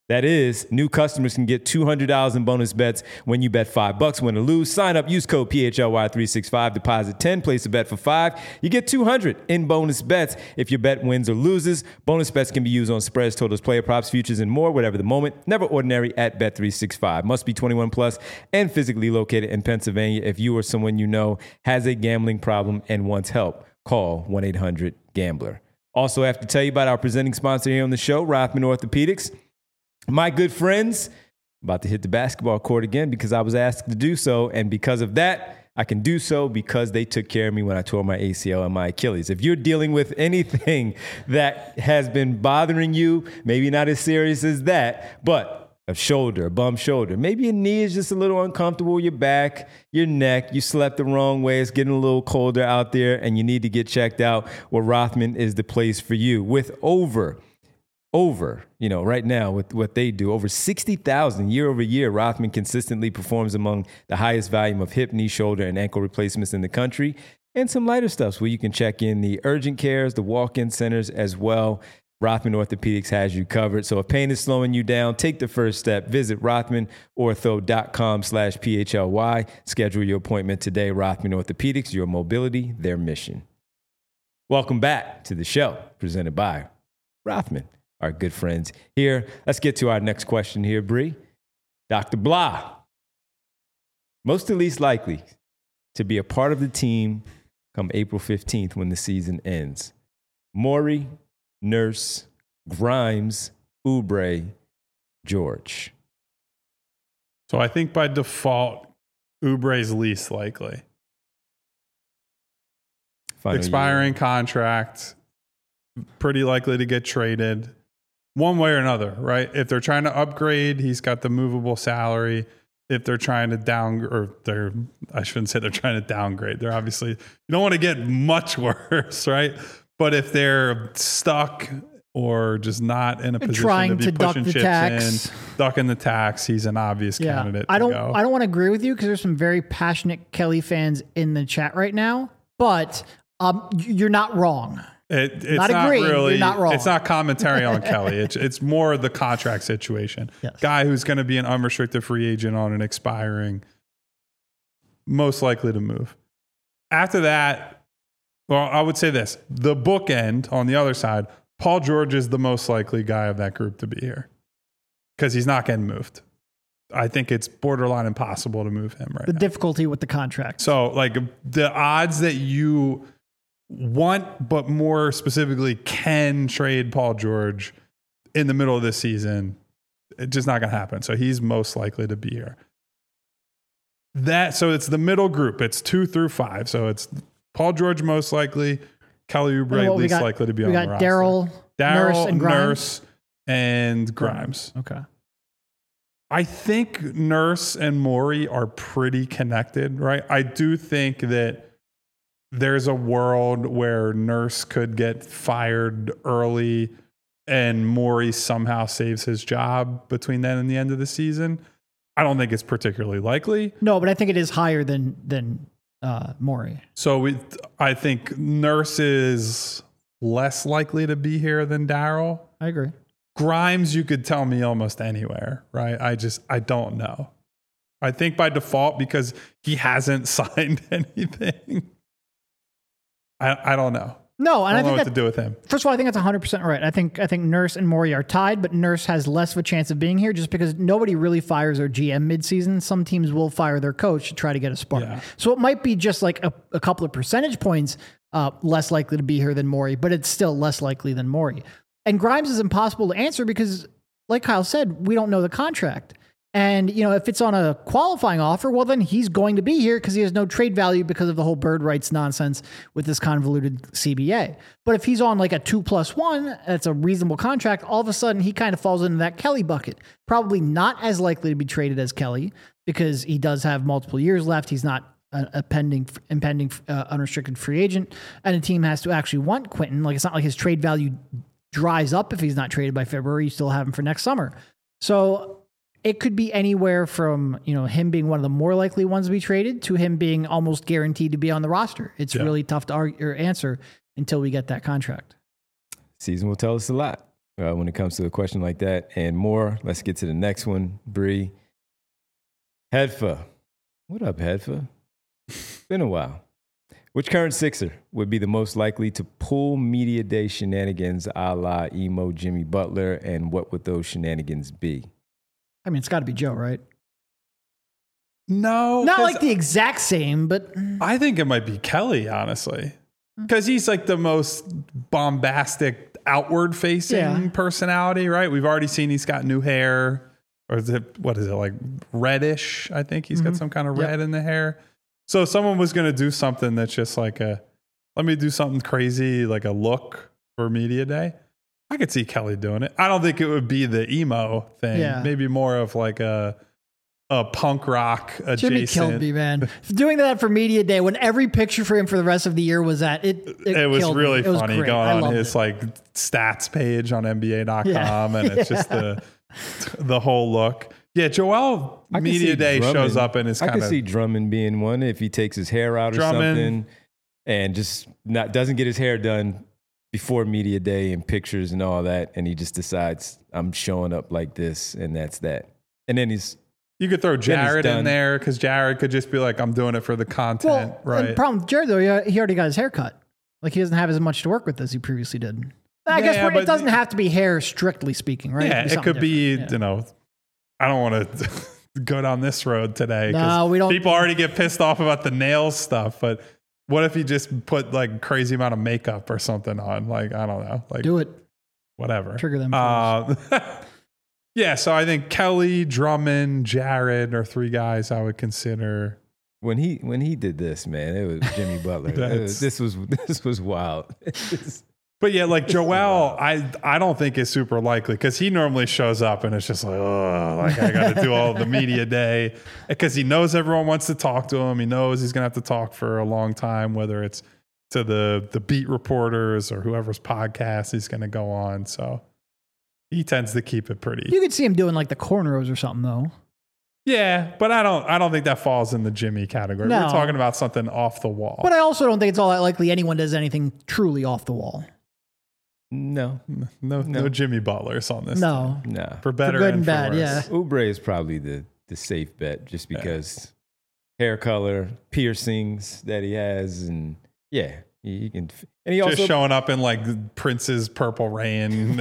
That is, new customers can get two hundred dollars in bonus bets when you bet five bucks, win or lose. Sign up, use code P H L Y three sixty-five, deposit ten, place a bet for five. You get two hundred in bonus bets if your bet wins or loses. Bonus bets can be used on spreads, totals, player props, futures, and more, whatever the moment. Never ordinary at Bet three sixty-five. Must be twenty-one plus and physically located in Pennsylvania. If you or someone you know has a gambling problem and wants help, call one eight hundred gambler. Also, I have to tell you about our presenting sponsor here on the show, Rothman Orthopedics. My good friends, about to hit the basketball court again because I was asked to do so. And because of that, I can do so because they took care of me when I tore my A C L and my Achilles. If you're dealing with anything that has been bothering you, maybe not as serious as that, but a shoulder, a bum shoulder, maybe your knee is just a little uncomfortable, your back, your neck, you slept the wrong way, it's getting a little colder out there and you need to get checked out, well, Rothman is the place for you. With over Over, you know, right now with what they do, over sixty thousand year over year, Rothman consistently performs among the highest volume of hip, knee, shoulder, and ankle replacements in the country, and some lighter stuffs where you can check in the urgent cares, the walk-in centers as well. Rothman Orthopedics has you covered. So if pain is slowing you down, take the first step. Visit rothmanortho.com slash PHLY. Schedule your appointment today. Rothman Orthopedics, your mobility, their mission. Welcome back to the show, presented by Rothman, our good friends here. Let's get to our next question here, Bree. Doctor Blah, most or least likely to be a part of the team come April fifteenth when the season ends? Morey, Nurse, Grimes, Oubre, George. So I think by default, Oubre's least likely. Final Expiring year. Contract, pretty likely to get traded. One way or another, right? If they're trying to upgrade, he's got the movable salary. If they're trying to down, or they're, I shouldn't say they're trying to downgrade. They're obviously, you don't want to get much worse, right? But if they're stuck or just not in a they're position trying to be to pushing duck the chips tax. in, ducking the tax, he's an obvious yeah. candidate I don't, to go. I don't want to agree with you because there's some very passionate Kelly fans in the chat right now, but um, you're not wrong. It, it's not, not agreeing, really. you're not wrong. It's not commentary on Kelly. It's it's more the contract situation. Yes. Guy who's going to be an unrestricted free agent on an expiring, most likely to move. After that, well, I would say this: the bookend on the other side. Paul George is the most likely guy of that group to be here because he's not getting moved. I think it's borderline impossible to move him right The now. difficulty with the contract. So, like the odds that you want, but more specifically can trade Paul George in the middle of this season, it's just not going to happen. So he's most likely to be here. That so it's the middle group. It's two through five. So it's Paul George most likely, Kelly Oubre well, least got, likely to be we on got the roster. Daryl, Nurse, Daryl, and Grimes. Nurse, and Grimes. Okay. I think Nurse and Morey are pretty connected, right? I do think that there's a world where Nurse could get fired early and Morey somehow saves his job between then and the end of the season. I don't think it's particularly likely. No, but I think it is higher than than uh, Morey. So we, I think Nurse is less likely to be here than Daryl. I agree. Grimes, you could tell me almost anywhere, right? I just, I don't know. I think by default, because he hasn't signed anything. I, I don't know. No, and I I, don't know think what that, to do with him. First of all, I think that's one hundred percent right. I think I think Nurse and Morey are tied, but Nurse has less of a chance of being here just because nobody really fires their G M midseason. Some teams will fire their coach to try to get a spark. Yeah. So it might be just like a, a couple of percentage points uh, less likely to be here than Morey, but it's still less likely than Morey. And Grimes is impossible to answer because, like Kyle said, we don't know the contract. And, you know, if it's on a qualifying offer, well, then he's going to be here because he has no trade value because of the whole bird rights nonsense with this convoluted C B A. But if he's on like a two plus one, that's a reasonable contract, all of a sudden he kind of falls into that Kelly bucket. Probably not as likely to be traded as Kelly because he does have multiple years left. He's not a, a pending, impending uh, unrestricted free agent. And a team has to actually want Quentin. Like, it's not like his trade value dries up if he's not traded by February. You still have him for next summer. So it could be anywhere from, you know, him being one of the more likely ones to be traded to him being almost guaranteed to be on the roster. It's yeah. really tough to argue or answer until we get that contract. Season will tell us a lot. uh, when it comes to a question like that and more. Let's get to the next one, Bree. Hedfa. What up, Hedfa? Been a while. Which current Sixer would be the most likely to pull media day shenanigans a la emo Jimmy Butler, and what would those shenanigans be? I mean, it's got to be Joe, right? No. Not like the exact same, but I think it might be Kelly, honestly. Because he's like the most bombastic, outward facing Yeah. personality, right? We've already seen he's got new hair. Or is it, what is it, like reddish? I think he's got some kind of Yep. red in the hair. So if someone was going to do something that's just like a, let me do something crazy, like a look for Media Day, I could see Kelly doing it. I don't think it would be the emo thing. Yeah. Maybe more of like a a punk rock adjacent. Jimmy killed me, man. Doing that for Media Day when every picture for him for the rest of the year was that, it It, It was killed me. really It was funny great. going I on loved his it. like stats page on N B A dot com, Yeah. and it's just the the whole look. Yeah, Joel I can Media see Day Drummond- shows up and is I kind could of see Drummond being one if he takes his hair out or Drummond. something and just not doesn't get his hair done before Media Day and pictures and all that, and he just decides I'm showing up like this and that's that. And then he's you could throw he's Jared in done. there because Jared could just be like, I'm doing it for the content, Well, and right? the problem with Jared, though, he he already got his hair cut. Like, he doesn't have as much to work with as he previously did. I Yeah, guess we're, but it doesn't the- have to be hair, strictly speaking, right? Yeah, be it something could be, different. you know, I don't want to go down this road today. 'cause No, we don't- People already get pissed off about the nails stuff, but what if you just put like crazy amount of makeup or something on? Like, I don't know. Like, Do it. whatever. Trigger them Uh, yeah, so I think Kelly, Drummond, Jared are three guys I would consider. when he when he did this, man, it was Jimmy Butler. It That's- was- this was this was wild. It's- But yeah, like Joel, I I don't think is super likely because he normally shows up and it's just like, oh, like I got to do all the media day because he knows everyone wants to talk to him. He knows he's gonna have to talk for a long time, whether it's to the the beat reporters or whoever's podcast he's gonna go on. So he tends to keep it pretty. You could see him doing like the cornrows or something, though. Yeah, but I don't I don't think that falls in the Jimmy category. No. We're talking about something off the wall. But I also don't think it's all that likely anyone does anything truly off the wall. no, no, no, No. Jimmy Butlers on this. No. team. nah. For better good and, and for bad, worse. yeah. Oubre is probably the the safe bet just because hair color, piercings that he has, and yeah, he, he can. And he Just also showing up in like Prince's Purple Rain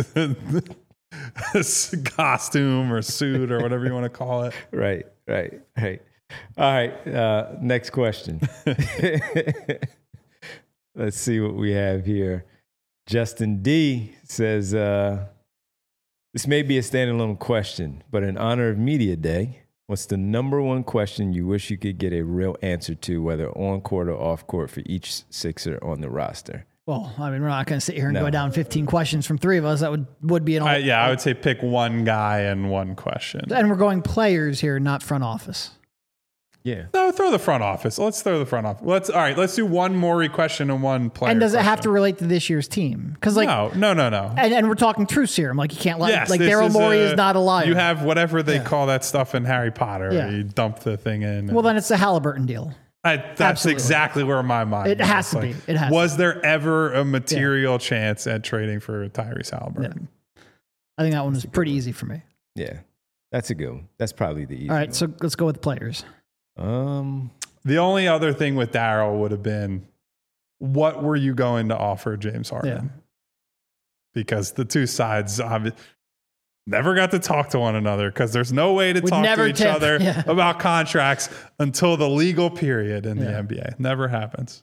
costume or suit or whatever you want to call it. right, right, right. All right, uh, next question. Let's see what we have here. Justin D says, uh, this may be a standalone question, but in honor of Media Day, what's the number one question you wish you could get a real answer to, whether on court or off court, for each Sixer on the roster? Well, I mean, we're not going to sit here and No. go down fifteen questions from three of us. That would, would be an all. I, yeah, I would say pick one guy and one question. And we're going players here, not front office. Yeah. No, throw the front office. Let's throw the front office. Let's all right. Let's do one Maury question and one player. And does it have to question. relate to this year's team? Because like, no, no, no, no. and, and we're talking truth serum. Like, you can't let Yes, like this Daryl is Morey a- is not a liar. You have whatever they Yeah. call that stuff in Harry Potter. Yeah. You dump the thing in. well, then it's the Halliburton deal. I, that's Absolutely. exactly where my mind. It was. has to Like, be. It has to Was there ever a material chance at trading for Tyrese Halliburton? I think that one was pretty easy for me. Yeah. That's a good one. That's probably the easy All right, one. so let's go with players. Um, The only other thing with Daryl would have been, what were you going to offer James Harden? Yeah. Because the two sides obvi- never got to talk to one another because there's no way to Would talk to never each tip. other Yeah. about contracts until the legal period in the Yeah. N B A. Never happens.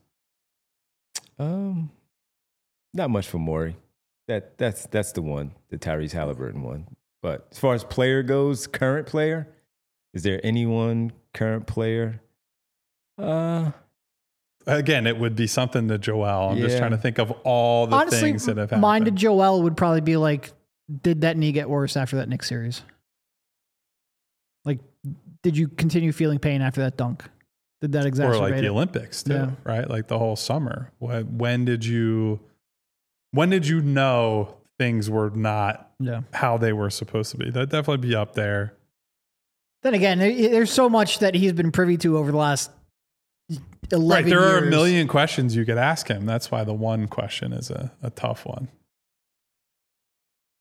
um, not much for Morey. That that's that's the one, the Tyrese Halliburton one. But as far as player goes, current player, is there anyone current player? Uh, Again, it would be something to Joel. I'm just Yeah. trying to think of all the Honestly, things that have happened. mine to Joel would probably be like, did that knee get worse after that Knicks series? Like, did you continue feeling pain after that dunk? Did that exacerbate or like the it? Olympics too, Yeah. right? Like the whole summer. When, when did you when did you know things were not Yeah. how they were supposed to be? That'd definitely be up there. Then again, there- there's so much that he's been privy to over the last eleven Right. There years. are a million questions you could ask him. That's why the one question is a, a tough one.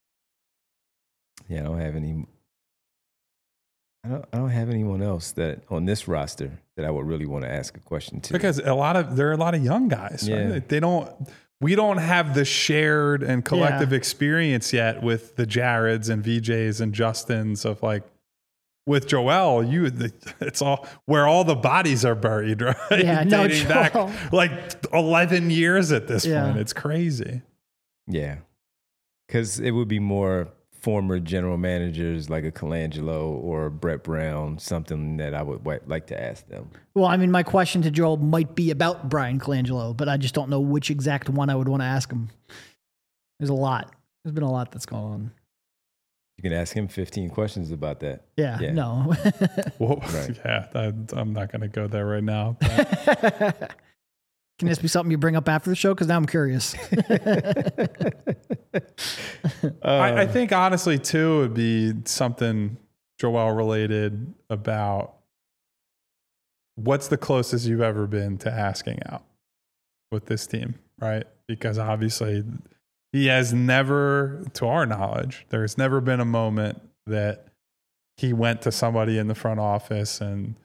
Yeah, I don't have any. I don't. I don't have anyone else that on this roster that I would really want to ask a question to. Because a lot of there are a lot of young guys. Yeah. Right? They don't. We don't have the shared and collective Yeah. experience yet with the Jareds and V Js and Justins of like. With Joel, you it's all where all the bodies are buried, right? Yeah, no, Dating Joel. back like eleven years at this Yeah. point. It's crazy. Yeah, because it would be more former general managers like a Colangelo or a Brett Brown, something that I would wa- like to ask them. Well, I mean, my question to Joel might be about Brian Colangelo, but I just don't know which exact one I would want to ask him. There's a lot. There's been a lot that's gone on. You can ask him fifteen questions about that. Yeah, Yeah. no. Well, Right. yeah, I, I'm not going to go there right now. But Can this be something you bring up after the show? Because now I'm curious. I, I think honestly too would be something Joel related about what's the closest you've ever been to asking out with this team, right? Because obviously he has never, to our knowledge, there's never been a moment that he went to somebody in the front office and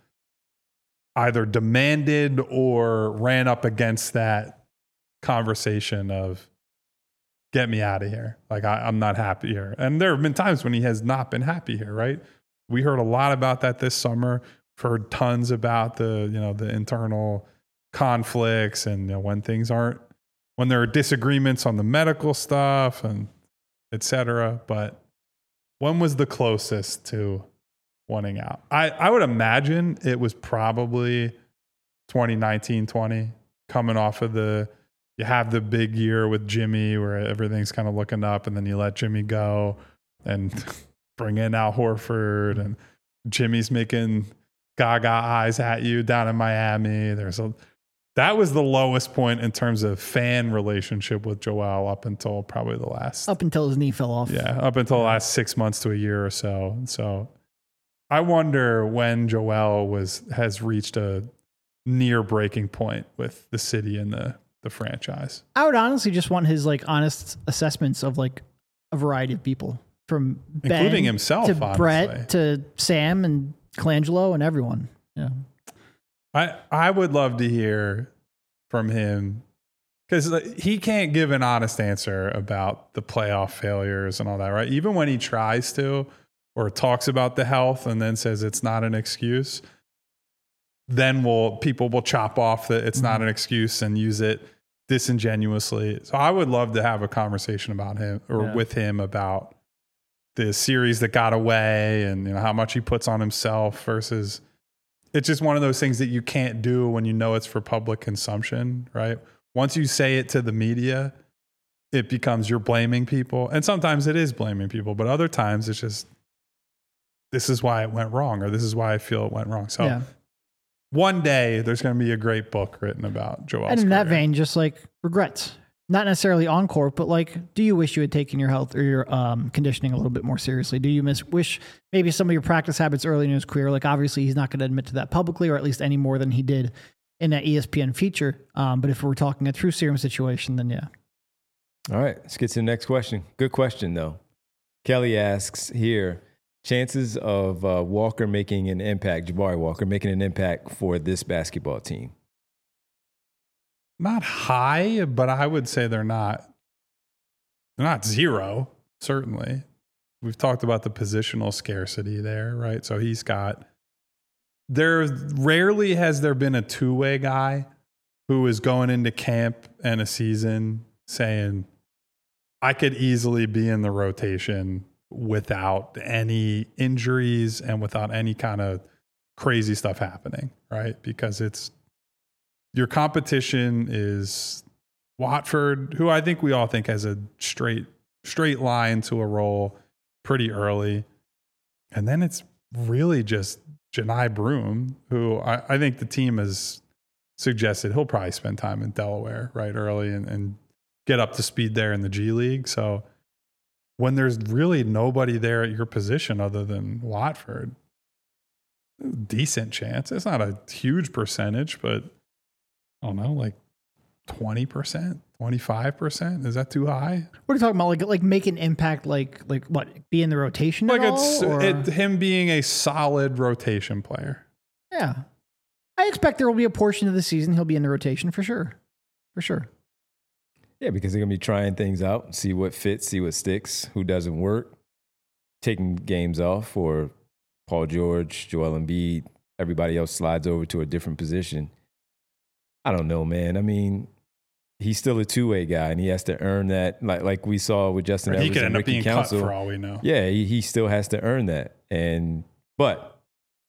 either demanded or ran up against that conversation of get me out of here. Like I, I'm not happy here. And there have been times when he has not been happy here, right? We heard a lot about that this summer. We've heard tons about the, you know, the internal conflicts and you know, when things aren't, when there are disagreements on the medical stuff and et cetera. But when was the closest to wanting out? I, I would imagine it was probably twenty nineteen twenty coming off of the, you have the big year with Jimmy where everything's kind of looking up and then you let Jimmy go and bring in Al Horford and Jimmy's making gaga eyes at you down in Miami. There's a, that was the lowest point in terms of fan relationship with Joel up until probably the last, Up until his knee fell off. yeah, up until the last six months to a year or so. So I wonder when Joel was, has reached a near breaking point with the city and the, the franchise. I would honestly just want his like honest assessments of like a variety of people from Ben Including himself, to honestly. Brett to Sam and Colangelo and everyone. Yeah. I, I would love to hear from him because he can't give an honest answer about the playoff failures and all that, right? Even when he tries to or talks about the health and then says it's not an excuse, then we'll, people will chop off that it's not an excuse and use it disingenuously. So I would love to have a conversation about him or Yeah. with him about the series that got away and you know how much he puts on himself versus it's just one of those things that you can't do when you know it's for public consumption, right? Once you say it to the media, it becomes you're blaming people. And sometimes it is blaming people, but other times it's just, this is why it went wrong, or this is why I feel it went wrong. So Yeah. one day there's going to be a great book written about Joel's And in that career. vein, just like regrets, not necessarily on court, but like, do you wish you had taken your health or your um, conditioning a little bit more seriously? Do you miss wish maybe some of your practice habits early in his career? Like, obviously, he's not going to admit to that publicly, or at least any more than he did in that E S P N feature. Um, but if we're talking a true serum situation, then yeah. All right, let's get to the next question. Good question, though. Kelly asks here, chances of uh, Walker making an impact, Jabari Walker making an impact for this basketball team? Not high, but I would say they're not, they're not zero, certainly. We've talked about the positional scarcity there, right? So he's got, there rarely has there been a two-way guy who is going into camp and a season saying, I could easily be in the rotation without any injuries and without any kind of crazy stuff happening, right? Because it's, your competition is Watford, who I think we all think has a straight straight line to a role pretty early. And then it's really just Janai Broom, who I, I think the team has suggested he'll probably spend time in Delaware right early and, and get up to speed there in the G League. So when there's really nobody there at your position other than Watford, decent chance. It's not a huge percentage, but I don't know, like twenty percent, twenty-five percent. Is that too high? What are you talking about? Like, like make an impact, like, like what? Be in the rotation Like at it's all, or? it, him being a solid rotation player. Yeah. I expect there will be a portion of the season he'll be in the rotation for sure. For sure. Yeah, because they're going to be trying things out, see what fits, see what sticks, who doesn't work, taking games off, or Paul George, Joel Embiid, everybody else slides over to a different position. I don't know, man. I mean, he's still a two-way guy, and he has to earn that, like like we saw with Justin Edwards He could and end up Ricky being Council. cut for all we know. Yeah, he, he still has to earn that. And but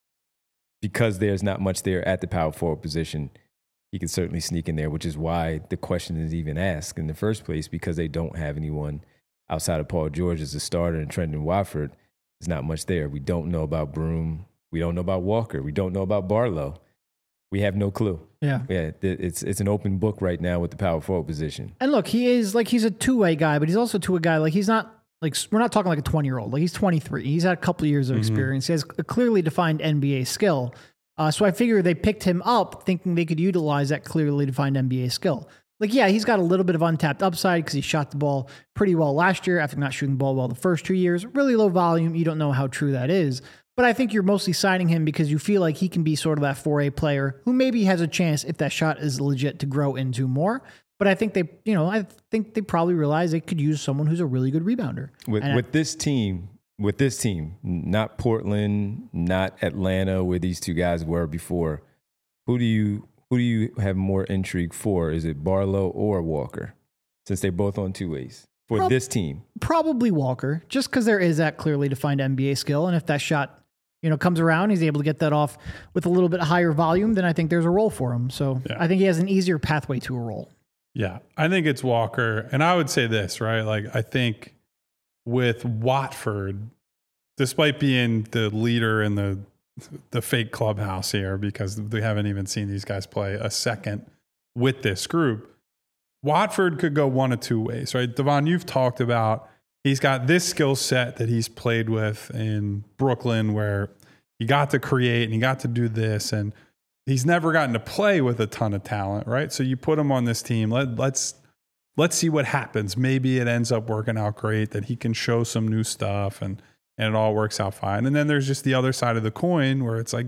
because there's not much there at the power forward position, he can certainly sneak in there, which is why the question is even asked in the first place, because they don't have anyone outside of Paul George as a starter and Trendon Watford. There's not much there. We don't know about Broom. We don't know about Walker. We don't know about Barlow. We have no clue. Yeah. Yeah, it's it's an open book right now with the power forward position. And look, he is like, he's a two-way guy, but he's also a two-way guy. Like, he's not like, we're not talking like a twenty-year-old. Like, he's twenty-three. He's had a couple of years of Mm-hmm. experience. He has a clearly defined N B A skill. Uh, so I figure they picked him up thinking they could utilize that clearly defined N B A skill. Like, yeah, he's got a little bit of untapped upside because he shot the ball pretty well last year after not shooting the ball well the first two years. Really low volume. You don't know how true that is. But I think you're mostly signing him because you feel like he can be sort of that four A player who maybe has a chance, if that shot is legit, to grow into more. But I think they, you know, I think they probably realize they could use someone who's a really good rebounder. With And I- with this team, with this team, not Portland, not Atlanta, where these two guys were before, who do you who do you have more intrigue for? Is it Barlow or Walker? Since they're both on two ways for Prob- this team. Probably Walker, just because there is that clearly defined N B A skill. And if that shot, you know, comes around, he's able to get that off with a little bit higher volume, then I think there's a role for him. So Yeah. I think he has an easier pathway to a role. Yeah, I think it's Walker. And I would say this, right? Like, I think with Watford, despite being the leader in the the fake clubhouse here, because we haven't even seen these guys play a second with this group, Watford could go one of two ways, right? Devon, you've talked about he's got this skill set that he's played with in Brooklyn where he got to create and he got to do this, and he's never gotten to play with a ton of talent, right? So you put him on this team. Let, let's let's see what happens. Maybe it ends up working out great, that he can show some new stuff and and it all works out fine. And then there's just the other side of the coin where it's like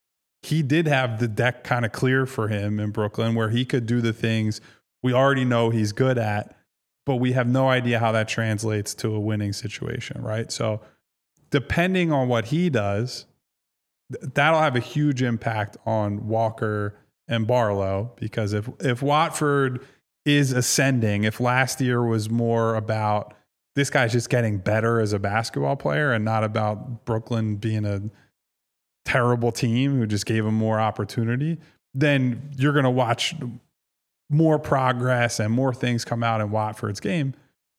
he did have the deck kind of clear for him in Brooklyn where he could do the things we already know he's good at, but we have no idea how that translates to a winning situation, right? So depending on what he does, th- that'll have a huge impact on Walker and Barlow, because if if Watford is ascending, if last year was more about this guy's just getting better as a basketball player and not about Brooklyn being a terrible team who just gave him more opportunity, then you're going to watch more progress and more things come out in Watford's game.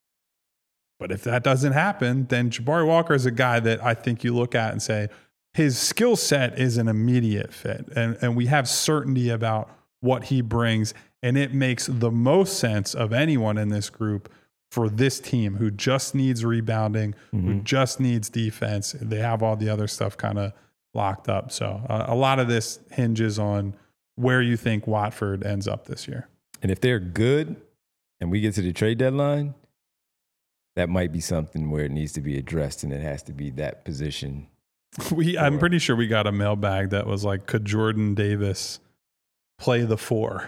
But if that doesn't happen, then Jabari Walker is a guy that I think you look at and say his skill set is an immediate fit. And, and we have certainty about what he brings. And it makes the most sense of anyone in this group for this team who just needs rebounding, mm-hmm. who just needs defense. They have all the other stuff kind of locked up. So uh, a lot of this hinges on where you think Watford ends up this year. And if they're good and we get to the trade deadline, that might be something where it needs to be addressed, and it has to be that position. We, I'm pretty sure we got a mailbag that was like, could Jordan Davis play the four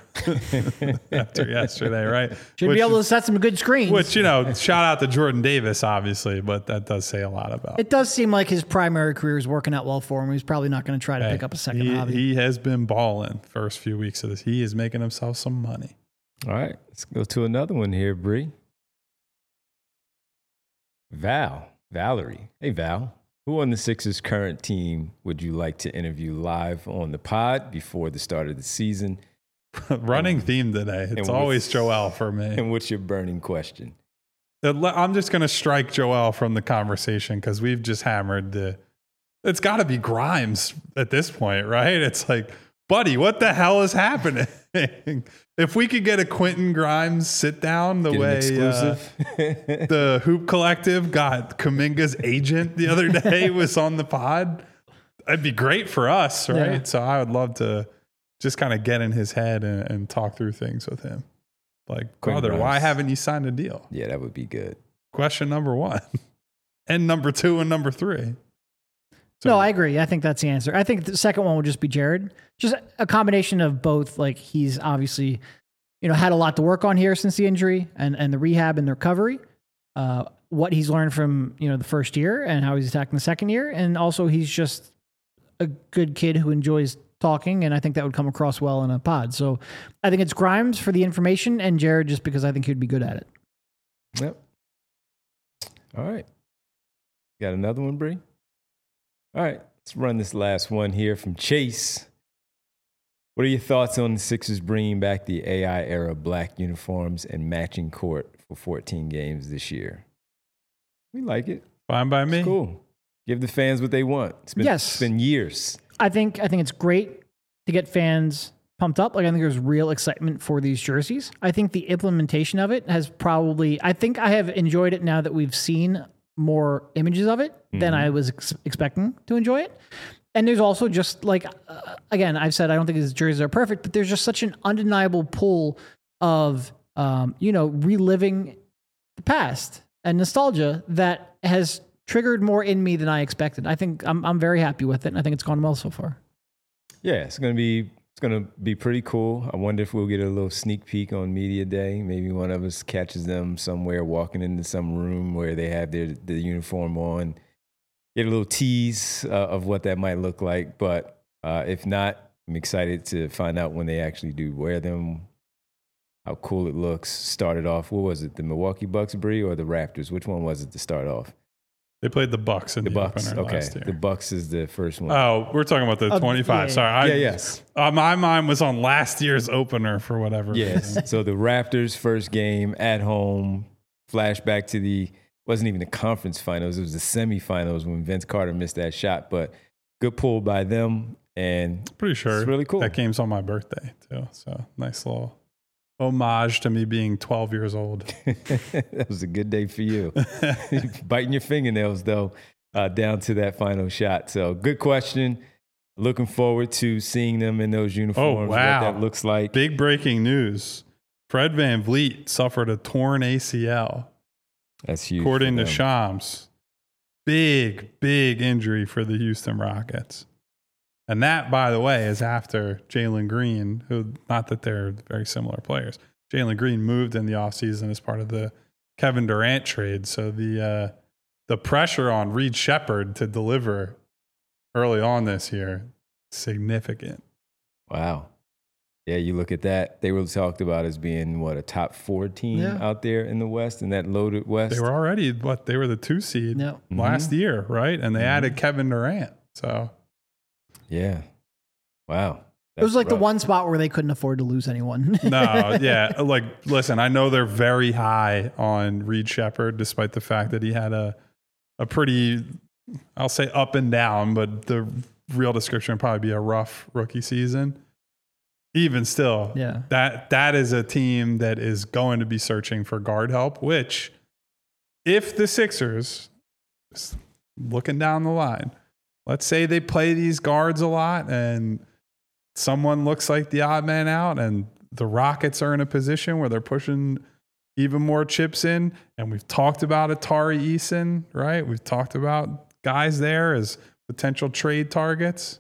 after yesterday, right? Should which, be able to set some good screens. Which, you know, shout out to Jordan Davis, obviously, but that does say a lot about it. Does seem like his primary career is working out well for him. He's probably not going to try to hey, pick up a second he, hobby. He has been balling first few weeks of this. He is making himself some money. All right, let's go to another one here, Bree. Val, Valerie. Hey, Val. Who on the Sixers' current team would you like to interview live on the pod before the start of the season? Running theme today. It's always Joel for me. And what's your burning question? I'm just going to strike Joel from the conversation because we've just hammered the. It's got to be Grimes at this point, right? It's like, buddy, what the hell is happening? If we could get a Quentin Grimes sit down the Get way exclusive. uh, the Hoop Collective got Kuminga's agent the other day was on the pod, it'd be great for us, right? Yeah. So I would love to just kind of get in his head and, and talk through things with him. Like, Quentin brother, why Grimes. haven't you signed a deal? Yeah, that would be good. Question number one. And number two and number three. So, No, I agree. I think that's the answer. I think the second one would just be Jared. Just a combination of both. Like he's obviously, you know, had a lot to work on here since the injury and, and the rehab and the recovery. Uh, what he's learned from, you know, the first year and how he's attacking the second year. And also he's just a good kid who enjoys talking. And I think that would come across well in a pod. So I think it's Grimes for the information and Jared just because I think he'd be good at it. Yep. All right. Got another one, Bree? All right. Let's run this last one here from Chase. What are your thoughts on the Sixers bringing back the A I era black uniforms and matching court for fourteen games this year? We like it. Fine by me. It's cool. Give the fans what they want. It's been, Yes. it's been years. I think I think it's great to get fans pumped up. Like I think there's real excitement for these jerseys. I think the implementation of it has probably, I think I have enjoyed it now that we've seen more images of it mm-hmm. than I was ex- expecting to enjoy it. And there's also just like, uh, again, I've said I don't think these jerseys are perfect, but there's just such an undeniable pull of, um, you know, reliving the past and nostalgia that has triggered more in me than I expected. I think I'm I'm very happy with it, and I think it's gone well so far. Yeah, it's gonna be it's gonna be pretty cool. I wonder if we'll get a little sneak peek on media day. Maybe one of us catches them somewhere walking into some room where they have their the uniform on. Get a little tease uh, of what that might look like. But uh, if not, I'm excited to find out when they actually do wear them. How cool it looks. Started off. What was it? The Milwaukee Bucks, Bree, or the Raptors? Which one was it to start off? They played the Bucks in the, the Bucks. opener Okay, last year. the Bucks is the first one. Oh, we're talking about the Uh, twenty-five. yeah, Sorry, I, yeah, yes. Uh, my mind was on last year's opener for whatever Yes. reason. So the Raptors' first game at home. Flashback to the wasn't even the conference finals. It was the semifinals when Vince Carter missed that shot. But good pull by them, and Pretty sure it's really cool. that game's on my birthday too. So nice little homage to me being twelve years old. That was a good day for you. Biting your fingernails though, uh, down to that final shot. So good question. Looking forward to seeing them in those uniforms. Oh, wow. What that looks like. Big breaking news. Fred VanVleet suffered a torn A C L. That's huge. According for to them. Shams. Big, big injury for the Houston Rockets. And that, by the way, is after Jalen Green, who, not that they're very similar players. Jalen Green moved in the offseason as part of the Kevin Durant trade. So the uh, the pressure on Reed Shepherd to deliver early on this year, significant. Wow. Yeah, you look at that. They were talked about as being, what, a top four team Yeah. out there in the West, in that loaded West. They were already, what, they were the two seed No. last year, right? And they Mhm. added Kevin Durant. So Yeah. Wow. It was That's like the rough. one spot where they couldn't afford to lose anyone. no, yeah. Like, listen, I know they're very high on Reed Shepherd, despite the fact that he had a a pretty, I'll say up and down, but the real description would probably be a rough rookie season. Even still, Yeah. that that is a team that is going to be searching for guard help, which if the Sixers, just looking down the line, let's say they play these guards a lot and someone looks like the odd man out and the Rockets are in a position where they're pushing even more chips in. And we've talked about Atari Eason, right? We've talked about guys there as potential trade targets.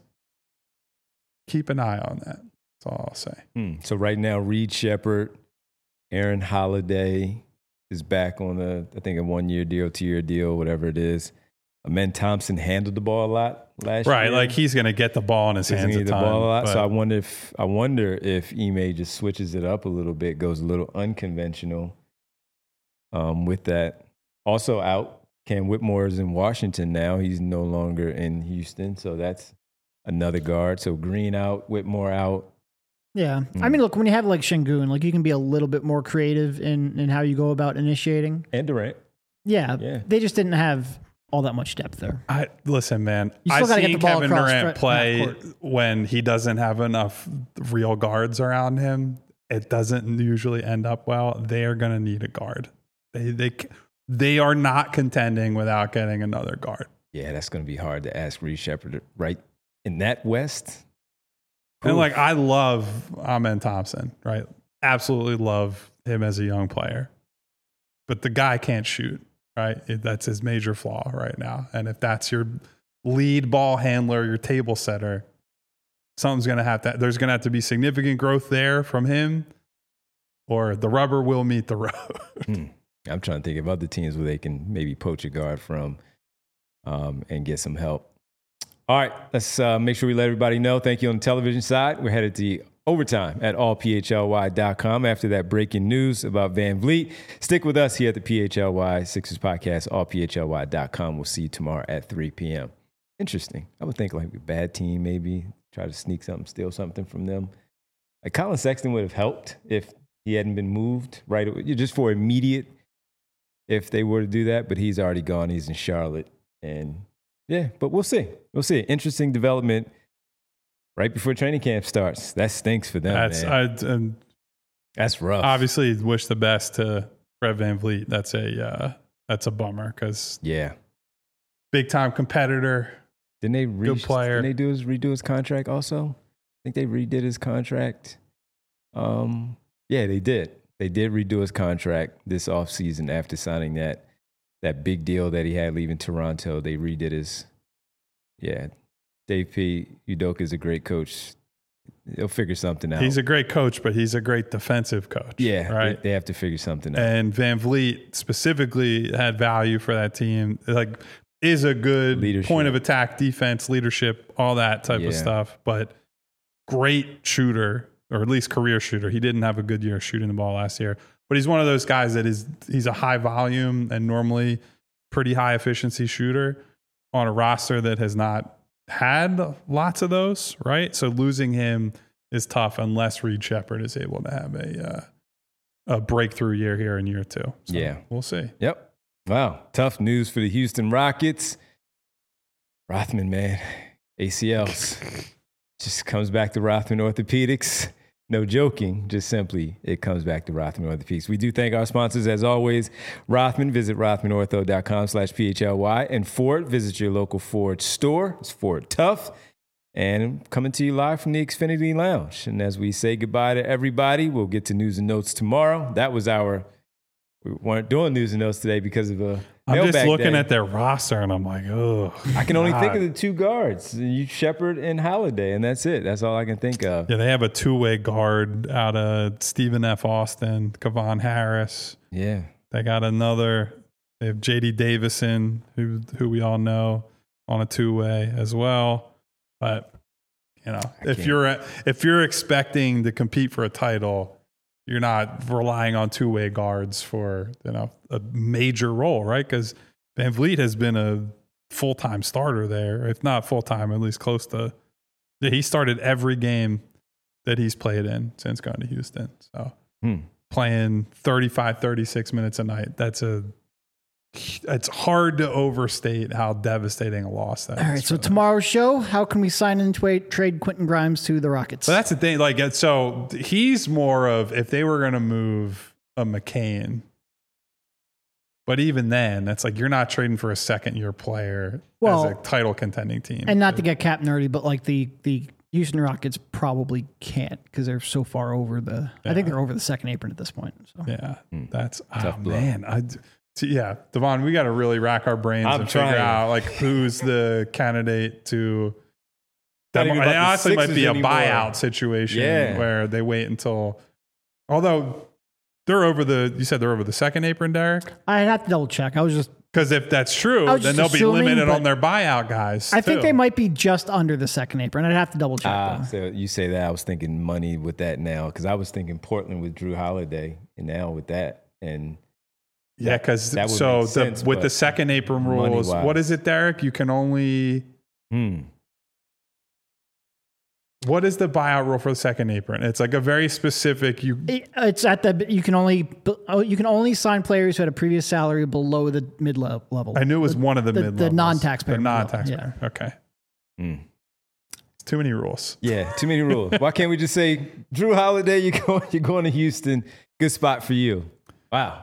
Keep an eye on that. That's all I'll say. Hmm. So right now, Reed Shepherd, Aaron Holiday is back on a, I think, a one-year deal, two-year deal, whatever it is. Amen Thompson handled the ball a lot last Right, year. like he's going to get the ball in his He's hands gonna a get ton. the ball a lot. but- So I wonder if I wonder if Ime just switches it up a little bit, goes a little unconventional um, with that. Also out, Cam Whitmore is in Washington now. He's no longer in Houston, so that's another guard. So Green out, Whitmore out. Yeah. Mm. I mean, look, when you have like Şengün, like you can be a little bit more creative in, in how you go about initiating. And Durant. Yeah, Yeah. They just didn't have all that much depth there. I listen, man. You still I've gotta get seen the ball Kevin across Durant front- play half court. when he doesn't have enough real guards around him. It doesn't usually end up well. They are going to need a guard. They they they are not contending without getting another guard. Yeah, that's going to be hard to ask Reed Shepherd right in that West. And Oof. like I love Amen Thompson, right? Absolutely love him as a young player. But the guy can't shoot, right? It, that's his major flaw right now. And if that's your lead ball handler, your table setter, something's going to have to, there's going to have to be significant growth there from him, or the rubber will meet the road. hmm. I'm trying to think of other teams where they can maybe poach a guard from um, and get some help. All right, let's uh, make sure we let everybody know. Thank you on the television side. We're headed to overtime at all p h l y dot com after that breaking news about Van Vliet. Stick with us here at the P H L Y Sixers podcast, all p h l y dot com. We'll see you tomorrow at three p.m. Interesting. I would think like a bad team maybe try to sneak something, steal something from them. Like Colin Sexton would have helped if he hadn't been moved right away, just for immediate, if they were to do that. But he's already gone. He's in Charlotte. And yeah, but we'll see. We'll see. Interesting development right before training camp starts. That stinks for them, That's, man. I, um, That's rough. Obviously, wish the best to Fred VanVleet. That's a uh, that's a bummer because yeah, big time competitor. Didn't they re- good player. Didn't they do his redo his contract also? I think they redid his contract. Um, yeah, they did. They did redo his contract this offseason after signing that that big deal that he had leaving Toronto. They redid his. Yeah, Dave P. Udoka is a great coach. They'll figure something out. He's a great coach, but he's a great defensive coach. Yeah, right. They, they have to figure something out. And VanVleet specifically had value for that team. Like, is a good Leadership. point of attack, defense, leadership, all that type Yeah. of stuff. But great shooter, or at least career shooter. He didn't have a good year shooting the ball last year, but he's one of those guys that is he's a high volume and normally pretty high efficiency shooter on a roster that has not had lots of those, right? So losing him is tough unless Reed Shepherd is able to have a uh, a breakthrough year here in year two. So Yeah. we'll see. Yep. Wow. Tough news for the Houston Rockets. Rothman, man. A C Ls. Just comes back to Rothman Orthopedics. No joking. Just simply, it comes back to Rothman Orthopedics. We do thank our sponsors, as always. Rothman, visit rothmanortho.com slash PHLY. And Ford, visit your local Ford store. It's Ford Tough. And coming to you live from the Xfinity Lounge. And as we say goodbye to everybody, we'll get to news and notes tomorrow. That was our... We weren't doing news and notes today because of a I'm just mailbag looking day. at their roster and I'm like, oh, I can only think of the two guards, you Shepard and Holiday, and that's it. That's all I can think of. Yeah, they have a two-way guard out of Stephen F. Austin, Kevon Harris. Yeah. They got another. They have J D Davison, who who we all know, on a two-way as well. But you know, I if can't. you're if you're expecting to compete for a title, you're not relying on two-way guards for, you know, a major role, right? Because VanVleet has been a full-time starter there, if not full-time, at least close to. Yeah, he started every game that he's played in since going to Houston. So Hmm. playing thirty-five, thirty-six minutes a night, that's a. It's hard to overstate how devastating a loss that All is. right, so for them. tomorrow's show, how can we sign in to a, trade Quentin Grimes to the Rockets? So that's the thing. Like, so he's more of if they were going to move a McCain, but even then, that's like you're not trading for a second year player Well, as a title contending team. and not to get cap nerdy, but like the the Houston Rockets probably can't because they're so far over the. I think Yeah. they're over the second apron at this point. So. yeah, Mm. that's Tough oh, blow. man. I, t- yeah, Devon, we got to really rack our brains I'm and trying. figure out like who's the candidate to. Not That even might, about it the honestly might Sixers be a anymore. buyout situation Yeah. where they wait until. Although they're over the, you said they're over the second apron, Derek. I'd have to double check. I was just. Because if that's true, I was then just they'll assuming, be limited but on their buyout guys. I think too. they might be just under the second apron. I'd have to double check. Ah, though. so you say that. I was thinking money with that now because I was thinking Portland with Drew Holiday and now with that. And Yeah, because that would so make the, sense, with but the second apron rules, money-wise. what is it, Derek? You can only. hmm. What is the buyout rule for the second apron? It's like a very specific. You It- It's at the you can only oh, you can only sign players who had a previous salary below the mid level. I knew it was one of the, the- mid the non-taxpayer The level, non-taxpayer. Okay, Hmm. it's too many rules. Yeah, too many rules. Why can't we just say, Drew Holiday, you're going, you're going to Houston. Good spot for you. Wow.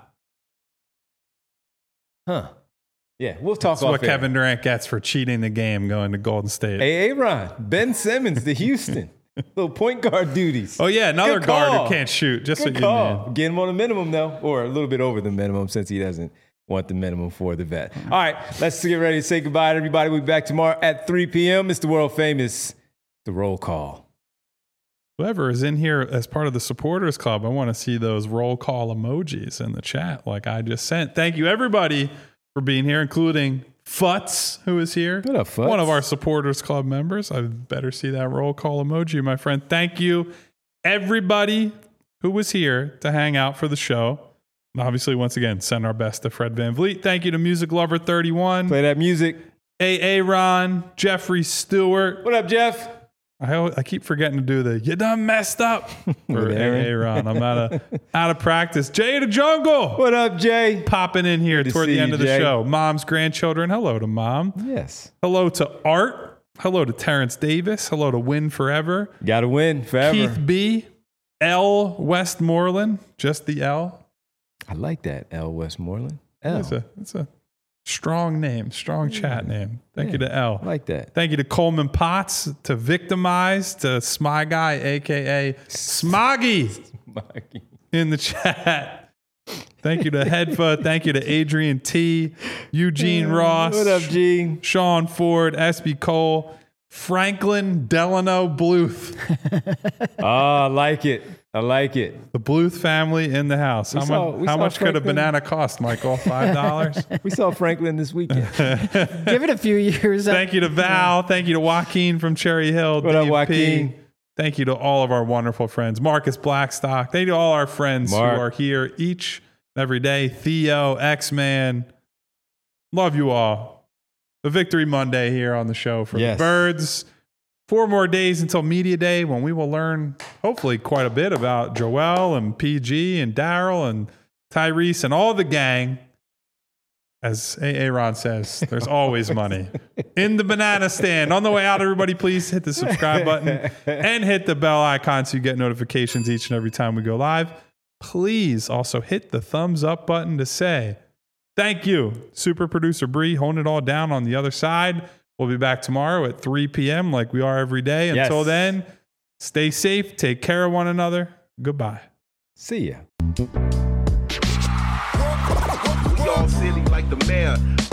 Huh. Yeah, we'll talk That's off what air. Kevin Durant gets for cheating the game going to Golden State. Hey, Aaron, Ben Simmons to Houston. Little point guard duties. Oh, yeah, another Good guard call. who can't shoot. Just Good what you call. need. Get him on the minimum, though, or a little bit over the minimum since he doesn't want the minimum for the vet. All right, let's get ready to say goodbye to everybody. We'll be back tomorrow at three p.m. It's the world famous The Roll Call. Whoever is in here as part of the supporters club, I want to see those roll call emojis in the chat like I just sent. Thank you, everybody, for being here, including Futz, who is here. What up, Futz? One of our supporters club members. I better see that roll call emoji, my friend. Thank you, everybody who was here to hang out for the show. And obviously, once again, send our best to Fred Van Vliet. Thank you to Music Lover thirty-one. Play that music. A A Ron, Jeffrey Stewart. What up, Jeff? I always, I keep forgetting to do the "you done messed up" for With Aaron. A A Ron. I'm out of out of practice. Jay the Jungle What up, Jay? popping in here Good to toward see the end you, of the Jay. show. Mom's grandchildren. Hello to mom. Yes. Hello to Art. Hello to Terrence Davis. Hello to Win Forever. Got to win forever. Keith B. L. Westmoreland. Just the L. I like that, L. Westmoreland. L. It's a it's a strong name, strong chat name. Thank Yeah. you to L. I like that. Thank you to Coleman Potts, to Victimize, to Smy Guy, aka Smoggy, in the chat. Thank you to Hedfa. Thank you to Adrian T, Eugene Ross, What up, Gene? Sean Ford, S B Cole, Franklin Delano Bluth. Oh, I like it. I like it. The Bluth family in the house. We How, saw- much, we how saw much could a Franklin- banana cost, Michael? Five dollars? We saw Franklin this weekend. Give it a few years. Thank you to Val. Thank you to Joaquin from Cherry Hill. What up, Dave Joaquin? P. Thank you to all of our wonderful friends. Marcus Blackstock. Thank you to all our friends Mark. who are here each and every day. Theo, X-Man. Love you all. A Victory Monday here on the show for Yes. the Birds. Four more days until Media Day when we will learn, hopefully, quite a bit about Joel and P G and Daryl and Tyrese and all the gang. As A A Ron says, there's always money in the banana stand. On the way out, everybody, please hit the subscribe button and hit the bell icon so you get notifications each and every time we go live. Please also hit the thumbs up button to say thank you. Super producer Bree holding it all down on the other side. We'll be back tomorrow at three p.m. like we are every day. Yes. Until then, stay safe, take care of one another. Goodbye. See ya. We all silly like the mayor.